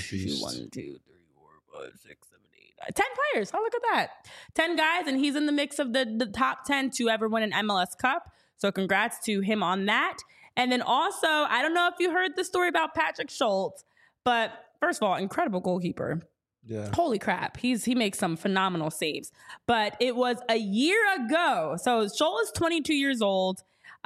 S2: players. Oh, look at that. 10 guys, and he's in the mix of the top 10 to ever win an MLS Cup. So congrats to him on that. And then also, I don't know if you heard the story about Patrick Schultz, but first of all, incredible goalkeeper.
S1: Yeah.
S2: Holy crap. He makes some phenomenal saves. But it was a year ago. So Schultz is 22 years old,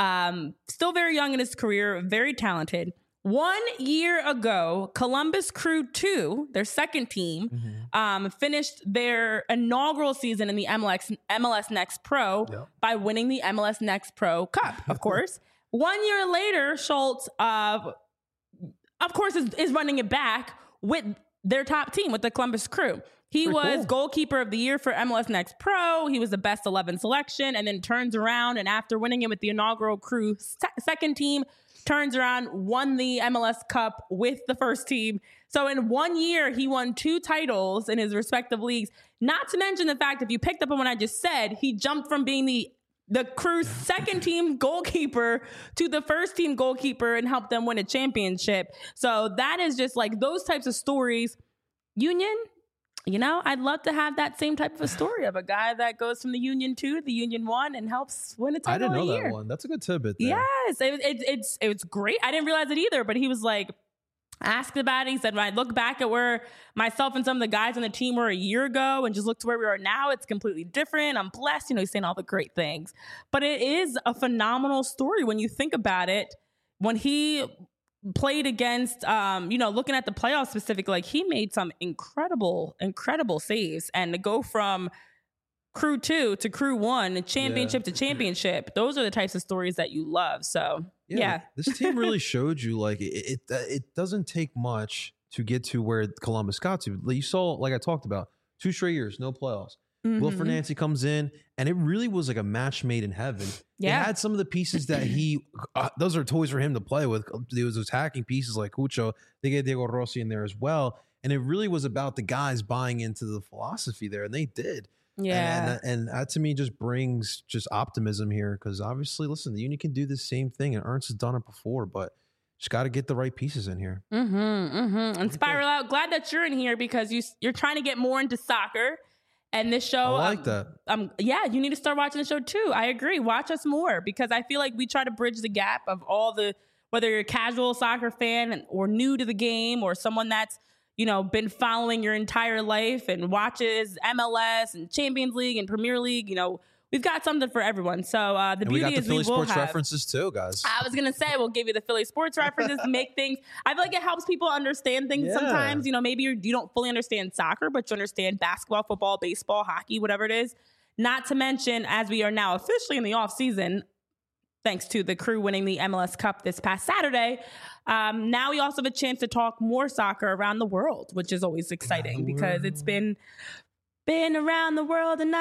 S2: still very young in his career, very talented. 1 year ago, Columbus Crew 2, their second team, finished their inaugural season in the MLS Next Pro by winning the MLS Next Pro Cup, of course. 1 year later, Schultz, of course, is running it back with their top team, with the Columbus Crew. He was goalkeeper of the year for MLS Next Pro. He was the best 11 selection, and then turns around, and after winning it with the inaugural Crew second team, turns around, won the MLS Cup with the first team. So in 1 year, he won 2 titles in his respective leagues. Not to mention the fact, if you picked up on what I just said, he jumped from being the Crew's second team goalkeeper to the first team goalkeeper and helped them win a championship. So that is just like those types of stories. Union, I'd love to have that same type of a story of a guy that goes from the Union 2 to the Union 1 and helps win a title.
S1: I didn't know
S2: a year.
S1: that one. That's a good tidbit there.
S2: Yes, it's great. I didn't realize it either, but he was like asked about it. He said, when I look back at where myself and some of the guys on the team were a year ago and just look to where we are now, it's completely different. I'm blessed. He's saying all the great things. But it is a phenomenal story when you think about it. When he played against, looking at the playoffs specifically, like he made some incredible saves, and to go from Crew 2 to Crew 1, championship to championship, those are the types of stories that you love. So yeah.
S1: This team really showed you like it doesn't take much to get to where Columbus got to. You saw, like I talked about, 2 straight years, no playoffs. Will Fernandes comes in, and it really was like a match made in heaven.
S2: Yeah.
S1: It had some of the pieces that those are toys for him to play with. There was attacking pieces like Cucho. They get Diego Rossi in there as well. And it really was about the guys buying into the philosophy there, and they did.
S2: Yeah.
S1: And that to me just brings just optimism here, because obviously, listen, the Union can do the same thing, and Ernst has done it before, but just got to get the right pieces in here.
S2: And Spiral Out, glad that you're in here because you're trying to get more into soccer. And this show,
S1: I like that.
S2: You need to start watching the show too. I agree. Watch us more, because I feel like we try to bridge the gap of whether you're a casual soccer fan or new to the game, or someone that's, been following your entire life and watches MLS and Champions League and Premier League. We've got something for everyone. So the beauty is we will
S1: Philly sports
S2: have
S1: references too, guys.
S2: I was gonna say we'll give you the Philly sports references, make things. I feel like it helps people understand things sometimes. Maybe you don't fully understand soccer, but you understand basketball, football, baseball, hockey, whatever it is. Not to mention, as we are now officially in the off season, thanks to the Crew winning the MLS Cup this past Saturday, now we also have a chance to talk more soccer around the world, which is always exciting because it's been around the world and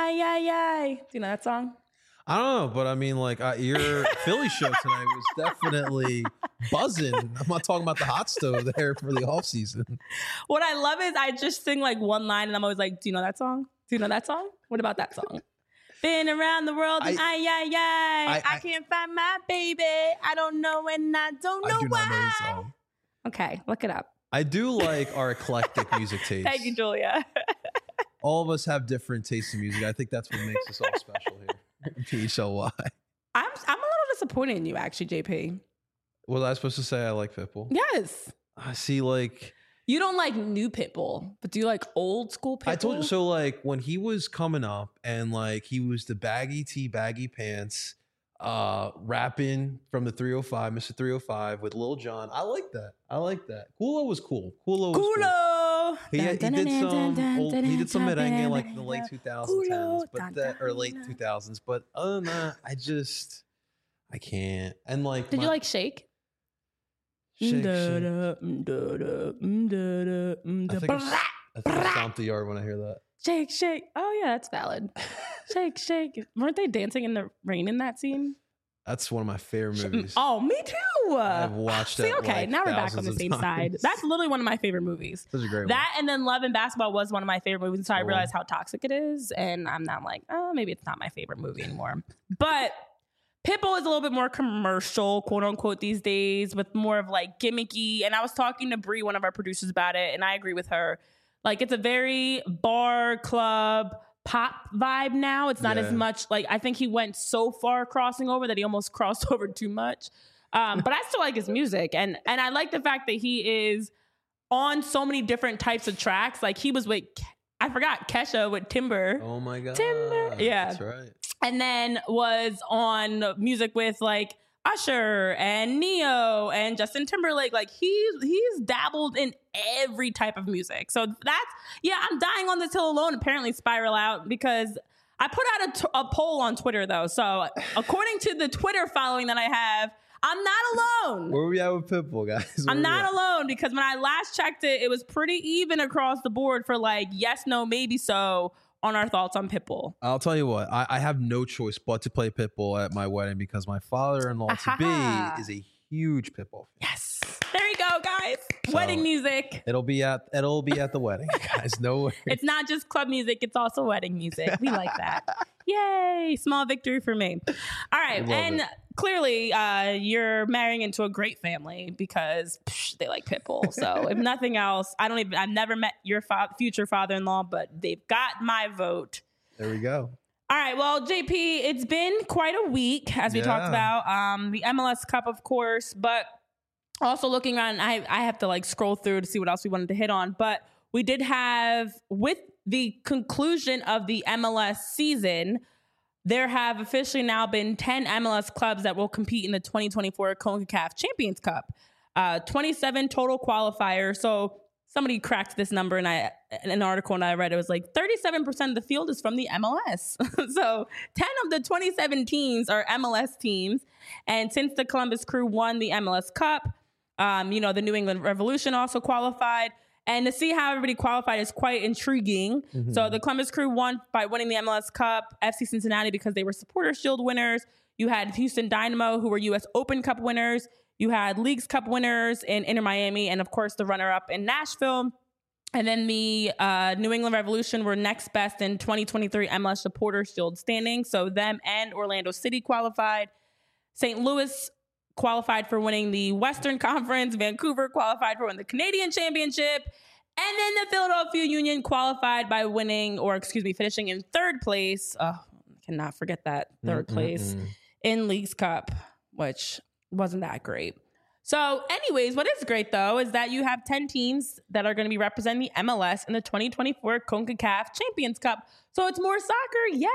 S2: I. Do you know that song?
S1: I don't know, but I mean, like your Philly show tonight was definitely buzzing. I'm not talking about the hot stove there for the off season.
S2: What I love is I just sing like one line and I'm always like, do you know that song? Do you know that song? What about that song? Been around the world and I can't find my baby. I don't know and I don't know why.
S1: Not know the song.
S2: Okay, look it up.
S1: I do like our eclectic music taste.
S2: Thank you, Julia.
S1: All of us have different tastes in music. I think that's what makes us all special here. PHLY.
S2: I'm a little disappointed in you, actually, JP.
S1: Was I supposed to say I like Pitbull?
S2: Yes.
S1: I see, like,
S2: You don't like new Pitbull, but do you like old school Pitbull?
S1: I told you so. Like when he was coming up, and like he was the baggy tee, baggy pants, rapping from the 305, Mr. 305 with Lil Jon. I like that. Kulo was cool. He did some merengue like in the late 2010s, or late 2000s. But other than that, I can't. And like,
S2: did you like Shake?
S1: I think I stomp the yard when I hear that.
S2: Shake, shake. Oh yeah, that's valid. Shake, shake. Weren't they dancing in the rain in that scene?
S1: That's one of my favorite movies.
S2: Oh, me too.
S1: I've watched it.
S2: Okay,
S1: like
S2: now we're back on the same side. That's literally one of my favorite movies.
S1: Such a great one.
S2: That and then Love and Basketball was one of my favorite movies. So I realized how toxic it is, and I'm now like, oh, maybe it's not my favorite movie anymore. But Pitbull is a little bit more commercial, quote unquote, these days, with more of like gimmicky. And I was talking to Bree, one of our producers, about it, and I agree with her. Like it's a very bar, club, pop vibe now. It's not as much like, I think he went so far crossing over that he almost crossed over too much. But I still like his music. And I like the fact that he is on so many different types of tracks. Like he was with, I forgot, Kesha with Timber.
S1: Oh my God.
S2: Timber. Yeah.
S1: That's right.
S2: And then was on music with like Usher and Neo and Justin Timberlake. Like he's dabbled in every type of music. So I'm dying on this hill alone. Apparently Spiral Out, because I put out a poll on Twitter though. So according to the Twitter following that I have, I'm not alone.
S1: Where we at with Pitbull, guys?
S2: I'm not alone, because when I last checked it, it was pretty even across the board for like yes, no, maybe so on our thoughts on Pitbull.
S1: I'll tell you what, I have no choice but to play Pitbull at my wedding because my father-in-law to be is a huge Pitbull fan.
S2: Yes. There you go, guys. So wedding music.
S1: It'll be at the wedding, guys. No worries.
S2: It's not just club music, it's also wedding music. We like that. Yay. Small victory for me. All right. And clearly you're marrying into a great family because they like Pitbull. So if nothing else, I've never met your future father-in-law, but they've got my vote.
S1: There we go.
S2: All right. Well, JP, it's been quite a week, as we talked about. The MLS Cup, of course, but also looking around, I have to like scroll through to see what else we wanted to hit on. But we did have, with the conclusion of the MLS season, there have officially now been 10 MLS clubs that will compete in the 2024 CONCACAF Champions Cup. 27 total qualifiers. So somebody cracked this number, and in an article and I read, it was like 37% of the field is from the MLS. So 10 of the 27 teams are MLS teams. And since the Columbus Crew won the MLS Cup, the New England Revolution also qualified. And to see how everybody qualified is quite intriguing. Mm-hmm. So the Columbus Crew won by winning the MLS Cup, FC Cincinnati because they were Supporters Shield winners. You had Houston Dynamo, who were U.S. Open Cup winners. You had Leagues Cup winners in Inter Miami, and of course the runner-up in Nashville. And then the New England Revolution were next best in 2023 MLS Supporters Shield standing. So them and Orlando City qualified. St. Louis qualified for winning the Western Conference. Vancouver qualified for winning the Canadian Championship. And then the Philadelphia Union qualified by finishing in third place. Oh, cannot forget that third place in Leagues Cup, which wasn't that great. So anyways, what is great though is that you have 10 teams that are going to be representing the MLS in the 2024 CONCACAF Champions Cup. So it's more soccer. Yay!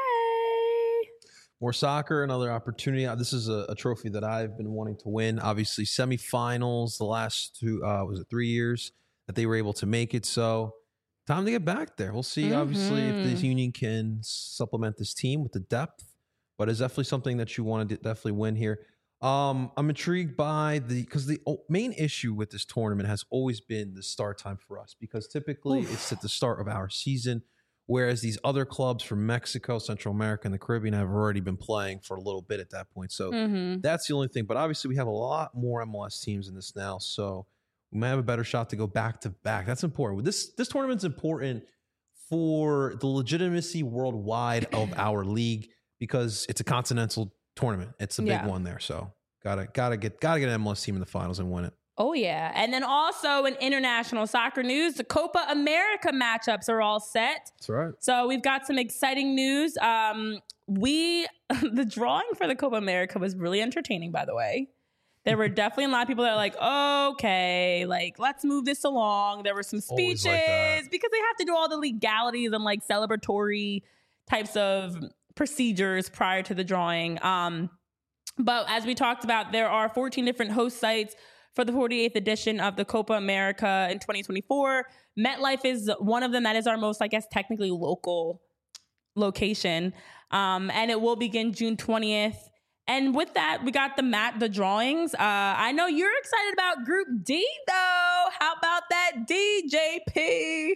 S1: More soccer, another opportunity. This is a trophy that I've been wanting to win. Obviously, semifinals the last 3 years that they were able to make it. So time to get back there. We'll see, obviously, if this Union can supplement this team with the depth. But it's definitely something that you want to definitely win here. I'm intrigued by because the main issue with this tournament has always been the start time for us, because typically it's at the start of our season. Whereas these other clubs from Mexico, Central America, and the Caribbean have already been playing for a little bit at that point. So that's the only thing. But obviously, we have a lot more MLS teams in this now. So we might have a better shot to go back to back. That's important. This tournament's important for the legitimacy worldwide of our league, because it's a continental tournament. It's a big one there. So gotta get an MLS team in the finals and win it.
S2: Oh, yeah. And then also in international soccer news, the Copa America matchups are all set.
S1: That's right.
S2: So we've got some exciting news. The drawing for the Copa America was really entertaining, by the way. There were definitely a lot of people that are like, okay, like, let's move this along. There were some speeches because they have to do all the legalities and like celebratory types of procedures prior to the drawing. But as we talked about, there are 14 different host sites for the 48th edition of the Copa America in 2024. MetLife is one of them. That is our most, I guess, technically local location. And it will begin June 20th. And with that, we got the drawings. I know you're excited about Group D, though. How about that DJP?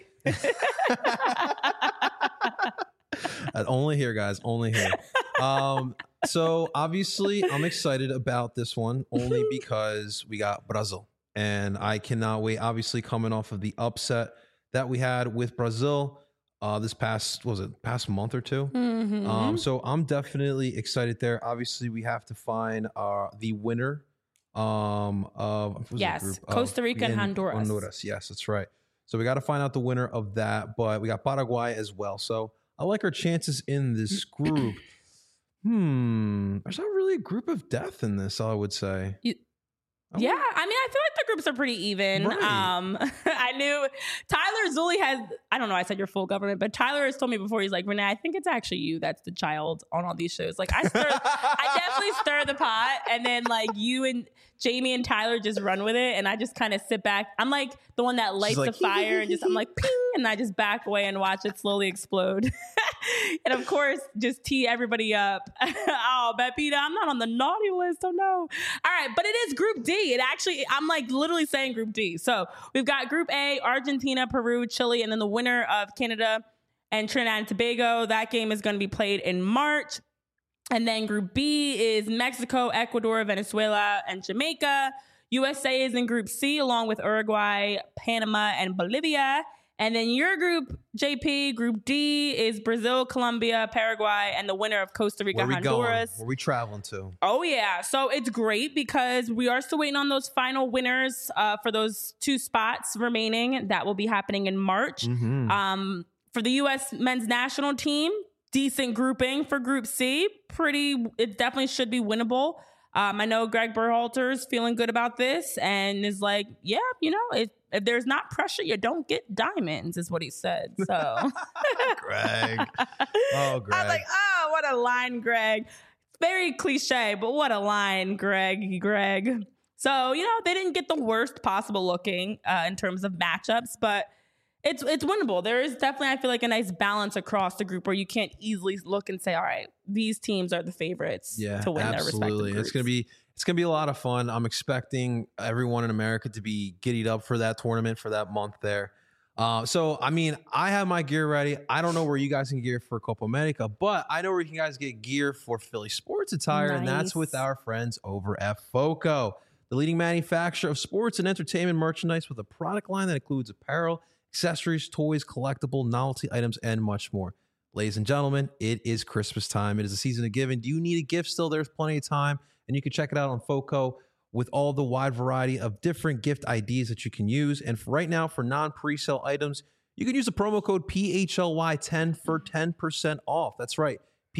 S1: Only here, guys. Only here. So obviously, I'm excited about this one only because we got Brazil, and I cannot wait. Obviously, coming off of the upset that we had with Brazil this past month or two.
S2: Mm-hmm.
S1: So I'm definitely excited there. Obviously, we have to find the winner of
S2: Costa Rica and Honduras.
S1: Yes, that's right. So we got to find out the winner of that, but we got Paraguay as well. So I like our chances in this group. There's not really a group of death in this, I would say.
S2: I mean, I feel like the groups are pretty even.
S1: Right.
S2: I knew Tyler Zulli I don't know, I said you're full government, but Tyler has told me before, he's like, Renee, I think it's actually you that's the child on all these shows. Like, I definitely stir the pot, and then like you and Jamie and Tyler just run with it, and I just kind of sit back. I'm like the one that lights the fire, and I'm like, ping, and I just back away and watch it slowly explode. And of course, just tee everybody up. Oh, Pepita, I'm not on the naughty list. Oh no. All right, but it is Group D. I'm like literally saying Group D. So we've got Group A, Argentina, Peru, Chile, and then the winner of Canada and Trinidad and Tobago. That game is going to be played in March. And then Group B is Mexico, Ecuador, Venezuela, and Jamaica. USA is in Group C along with Uruguay, Panama, and Bolivia. And then your group, JP, Group D, is Brazil, Colombia, Paraguay, and the winner of Costa Rica, Honduras.
S1: Where we traveling to?
S2: Oh, yeah. So it's great because we are still waiting on those final winners for those 2 spots remaining. That will be happening in March.
S1: Mm-hmm.
S2: For the U.S. men's national team, decent grouping for Group C. It definitely should be winnable. I know Greg Berhalter's feeling good about this and is like, yeah, if there's not pressure, you don't get diamonds, is what he said. So,
S1: Greg. Oh, Greg.
S2: I was like, oh, what a line, Greg. Very cliche, but what a line, Greg. So, they didn't get the worst possible looking in terms of matchups, but it's winnable. There is definitely, I feel like, a nice balance across the group where you can't easily look and say, all right, these teams are the favorites to win their respective groups.
S1: It's gonna be a lot of fun. I'm expecting everyone in America to be giddied up for that tournament for that month there. So I mean, I have my gear ready. I don't know where you guys can gear for Copa America, but I know where you can guys get gear for Philly sports attire, and that's with our friends over at FOCO, the leading manufacturer of sports and entertainment merchandise with a product line that includes apparel, accessories, toys, collectible, novelty items, and much more. Ladies and gentlemen, it is Christmas time. It is a season of giving. Do you need a gift still? There's plenty of time. And you can check it out on FOCO with all the wide variety of different gift ideas that you can use. And for right now, for non-presale items, you can use the promo code PHLY10 for 10% off. That's right,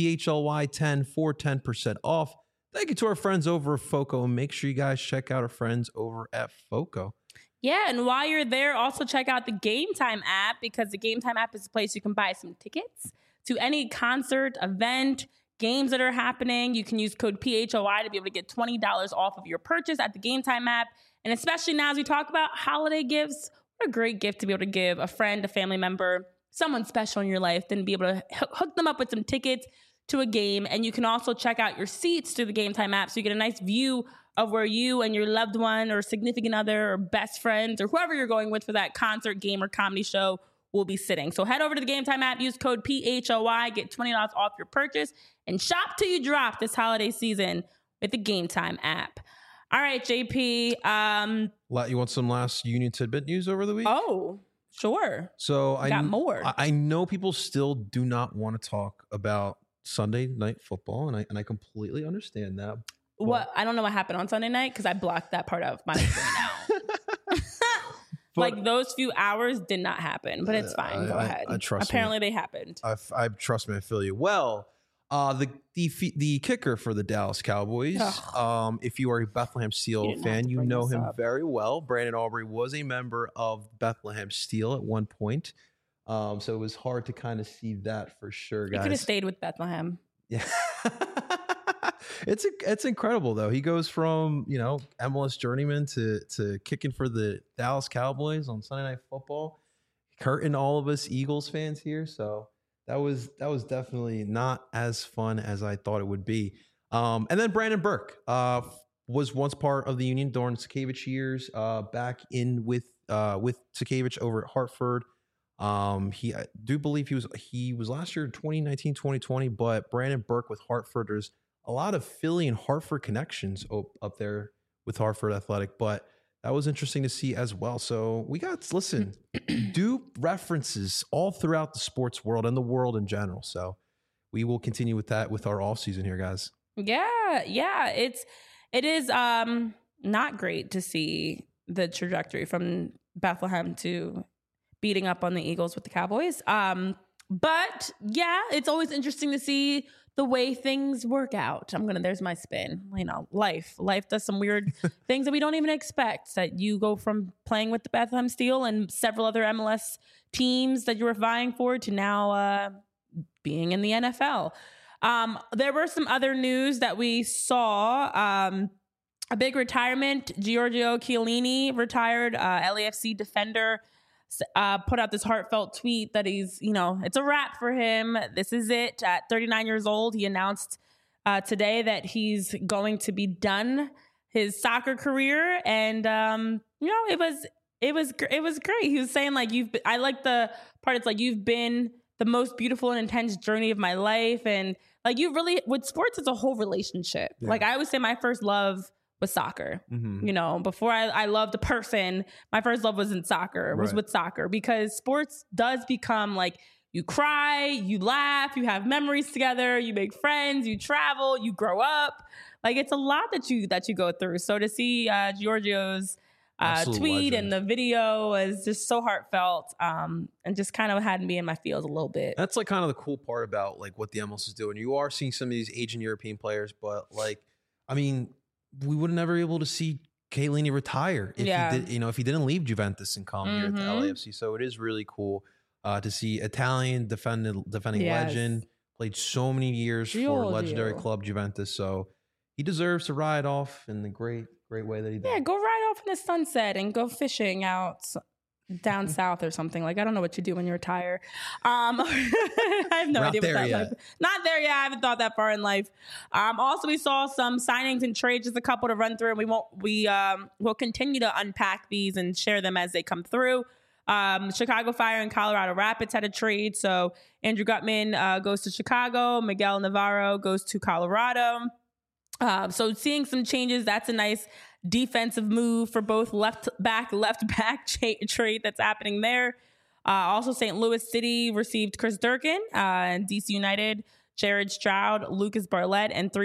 S1: PHLY10 for 10% off. Thank you to our friends over at FOCO. And make sure you guys check out our friends over at FOCO.
S2: Yeah, and while you're there, also check out the Game Time app, because the Game Time app is a place you can buy some tickets to any concert, event, games that are happening. You can use code PHOI to be able to get $20 off of your purchase at the Game Time app. And especially now as we talk about holiday gifts, what a great gift to be able to give a friend, a family member, someone special in your life, then be able to hook them up with some tickets to a game. And you can also check out your seats through the Game Time app so you get a nice view of where you and your loved one or significant other or best friends or whoever you're going with for that concert, game, or comedy show will be sitting. So head over to the Game Time app, use code PHOI, get $20 off your purchase, and shop till you drop this holiday season with the Game Time app. All right, JP.
S1: You want some last Union Tidbit news over the week?
S2: Oh, sure.
S1: So
S2: I got more.
S1: I know people still do not want to talk about Sunday night football, and I completely understand that.
S2: What? I don't know what happened on Sunday night because I blocked that part of my screen now. Like those few hours did not happen, but it's fine. Go ahead.
S1: I trust
S2: Apparently
S1: me.
S2: they happened.
S1: I trust me. I feel you. Well, The kicker for the Dallas Cowboys. If you are a Bethlehem Steel fan, you know him very well. Brandon Aubrey was a member of Bethlehem Steel at one point. So it was hard to kind of see that for sure, guys.
S2: He could have stayed with Bethlehem.
S1: Yeah. It's incredible though. He goes from, MLS journeyman to kicking for the Dallas Cowboys on Sunday Night Football, hurting all of us Eagles fans here. So that was definitely not as fun as I thought it would be. And then Brandon Burke was once part of the Union during Sakavich years, back in with Sakavich over at Hartford. I do believe he was last year 2019, 2020, but Brandon Burke with Hartford, there's a lot of Philly and Hartford connections up there with Hartford Athletic, but that was interesting to see as well. So we do references all throughout the sports world and the world in general. So we will continue with that with our off season here, guys. Yeah.
S2: It is not great to see the trajectory from Bethlehem to beating up on the Eagles with the Cowboys. But yeah, it's always interesting to see the way things work out. There's my spin. Life does some weird things that we don't even expect. That you go from playing with the Bethlehem Steel and several other MLS teams that you were vying for to now being in the NFL. There were some other news that we saw. A big retirement. Giorgio Chiellini retired, LAFC defender. Put out this heartfelt tweet that he's, it's a wrap for him. This is it. At 39 years old, he announced today that he's going to be done his soccer career. And, it was great. He was saying I like the part. It's you've been the most beautiful and intense journey of my life. And with sports, it's a whole relationship. Yeah. I always say my first love was soccer. Mm-hmm. Before I loved a person, my first love was in soccer, was with soccer, because sports does become you cry, you laugh, you have memories together, you make friends, you travel, you grow up. It's a lot that you go through. So to see Giorgio's tweet legend. And the video was just so heartfelt, and just kind of had me in my feels a little bit.
S1: That's kind of the cool part about what the MLS is doing. You are seeing some of these Asian European players, but we would have never be able to see Chiellini retire if he didn't leave Juventus and come here to LAFC. So it is really cool to see Italian defending legend, played so many years for legendary club Juventus. So he deserves to ride off in the great way that he did.
S2: Yeah, go ride off in the sunset and go fishing out down south or something. I don't know what you do when you retire. I have no idea what that's like. Not there yet. I haven't thought that far in life. Also, we saw some signings and trades, just a couple to run through, and we'll continue to unpack these and share them as they come through. Chicago Fire and Colorado Rapids had a trade. So Andrew Gutman goes to Chicago. Miguel Navarro goes to Colorado. So seeing some changes, that's a nice defensive move for both left back trade that's happening there. Also, St. Louis City received Chris Durkin, and DC United, Jared Stroud, Lucas Bartlett, and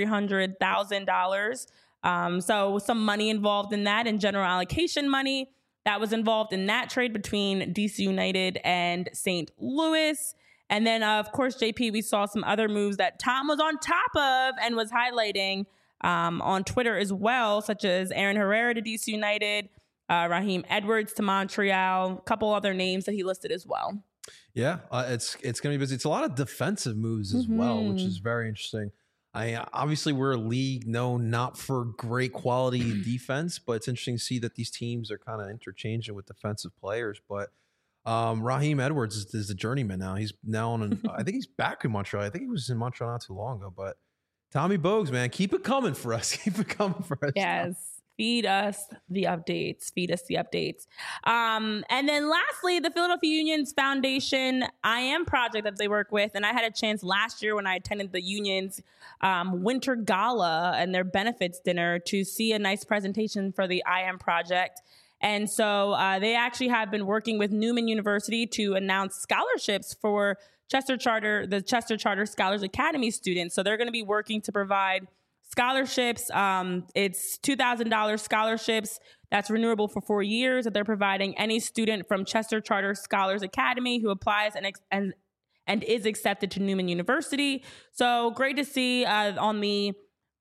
S2: $300,000. So some money involved in that, and general allocation money that was involved in that trade between DC United and St. Louis. And then, of course, JP, we saw some other moves that Tom was on top of and was highlighting on Twitter as well, such as Aaron Herrera to DC United, Raheem Edwards to Montreal, a couple other names that he listed as well.
S1: Yeah, it's going to be busy. It's a lot of defensive moves as well, which is very interesting. Obviously, we're a league known not for great quality defense, but it's interesting to see that these teams are kind of interchanging with defensive players. But Raheem Edwards is the journeyman now. He's now on I think he's back in Montreal. I think he was in Montreal not too long ago, but Tommy Bogues, man, keep it coming for us. Keep it coming for us.
S2: Yes. Feed us the updates. And then lastly, the Philadelphia Union's Foundation I Am project that they work with. And I had a chance last year when I attended the Union's winter gala and their benefits dinner to see a nice presentation for the I Am project. And so they actually have been working with Newman University to announce scholarships for the Chester Charter Scholars Academy students. So they're going to be working to provide scholarships. It's $2,000 scholarships that's renewable for 4 years that they're providing any student from Chester Charter Scholars Academy who applies and and is accepted to Newman University. So great to see on the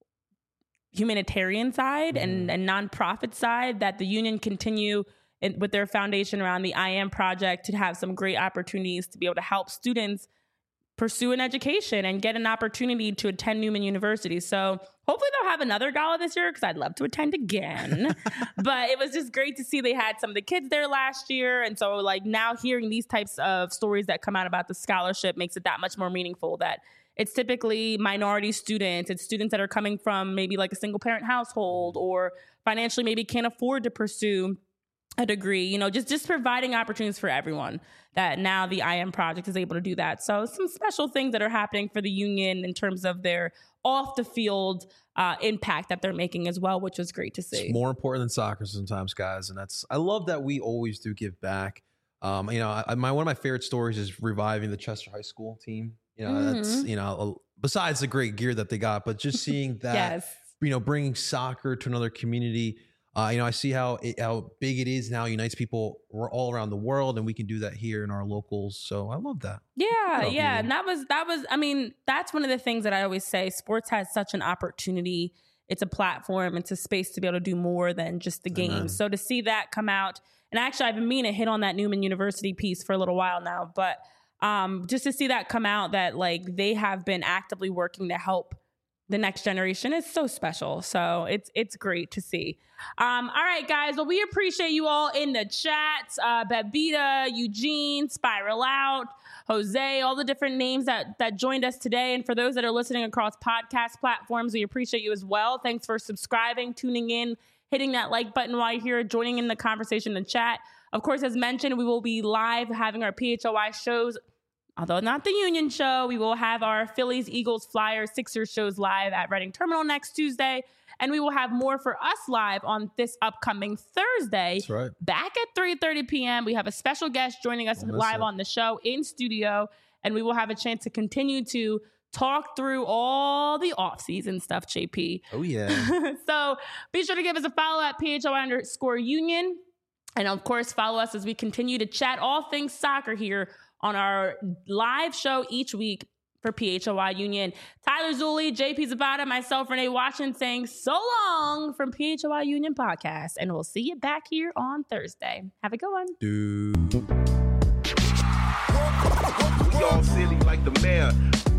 S2: humanitarian side and nonprofit side that the union continue with their foundation around the I Am Project to have some great opportunities to be able to help students pursue an education and get an opportunity to attend Newman University. So hopefully they'll have another gala this year because I'd love to attend again. But it was just great to see they had some of the kids there last year. And so like now hearing these types of stories that come out about the scholarship makes it that much more meaningful that it's typically minority students. It's students that are coming from maybe like a single parent household or financially maybe can't afford to pursue a degree, you know, just providing opportunities for everyone that now the I Am Project is able to do that. So some special things that are happening for the union in terms of their off the field impact that they're making as well, which was great to see.
S1: It's more important than soccer sometimes, guys. And I love that we always do give back. You know, one of my favorite stories is reviving the Chester High School team. You know, that's, you know, besides the great gear that they got, but just seeing that, you know, bringing soccer to another community. You know, I see how big it is now, unites people all around the world, and we can do that here in our locals. So I love that.
S2: Yeah. And that was, I mean, that's one of the things that I always say. Sports has such an opportunity. It's a platform. It's a space to be able to do more than just the game. So to see that come out, and actually I've been meaning to hit on that Newman University piece for a little while now, but just to see that come out that like they have been actively working to help the next generation is so special. So it's great to see. All right, guys. Well, we appreciate you all in the chat. Babita, Eugene, Spiral Out, Jose, all the different names that joined us today. And for those that are listening across podcast platforms, we appreciate you as well. Thanks for subscribing, tuning in, hitting that like button while you're here, joining in the conversation in the chat. Of course, as mentioned, we will be live having our PHLY shows. Although not the Union show, we will have our Phillies, Eagles, Flyers, Sixers shows live at Reading Terminal next Tuesday. And we will have more for us live on this upcoming Thursday.
S1: That's right.
S2: Back at 3:30 p.m. We have a special guest joining us live on the show in studio. And we will have a chance to continue to talk through all the off-season stuff, JP.
S1: Oh, yeah.
S2: So be sure to give us a follow at PHLY_Union. And of course, follow us as we continue to chat all things soccer here on our live show each week for PHLY Union. Tyler Zulli, JP Zapata, myself, Renee Washington saying so long from PHLY Union Podcast. And we'll see you back here on Thursday. Have a good one.
S4: We all silly like the mayor.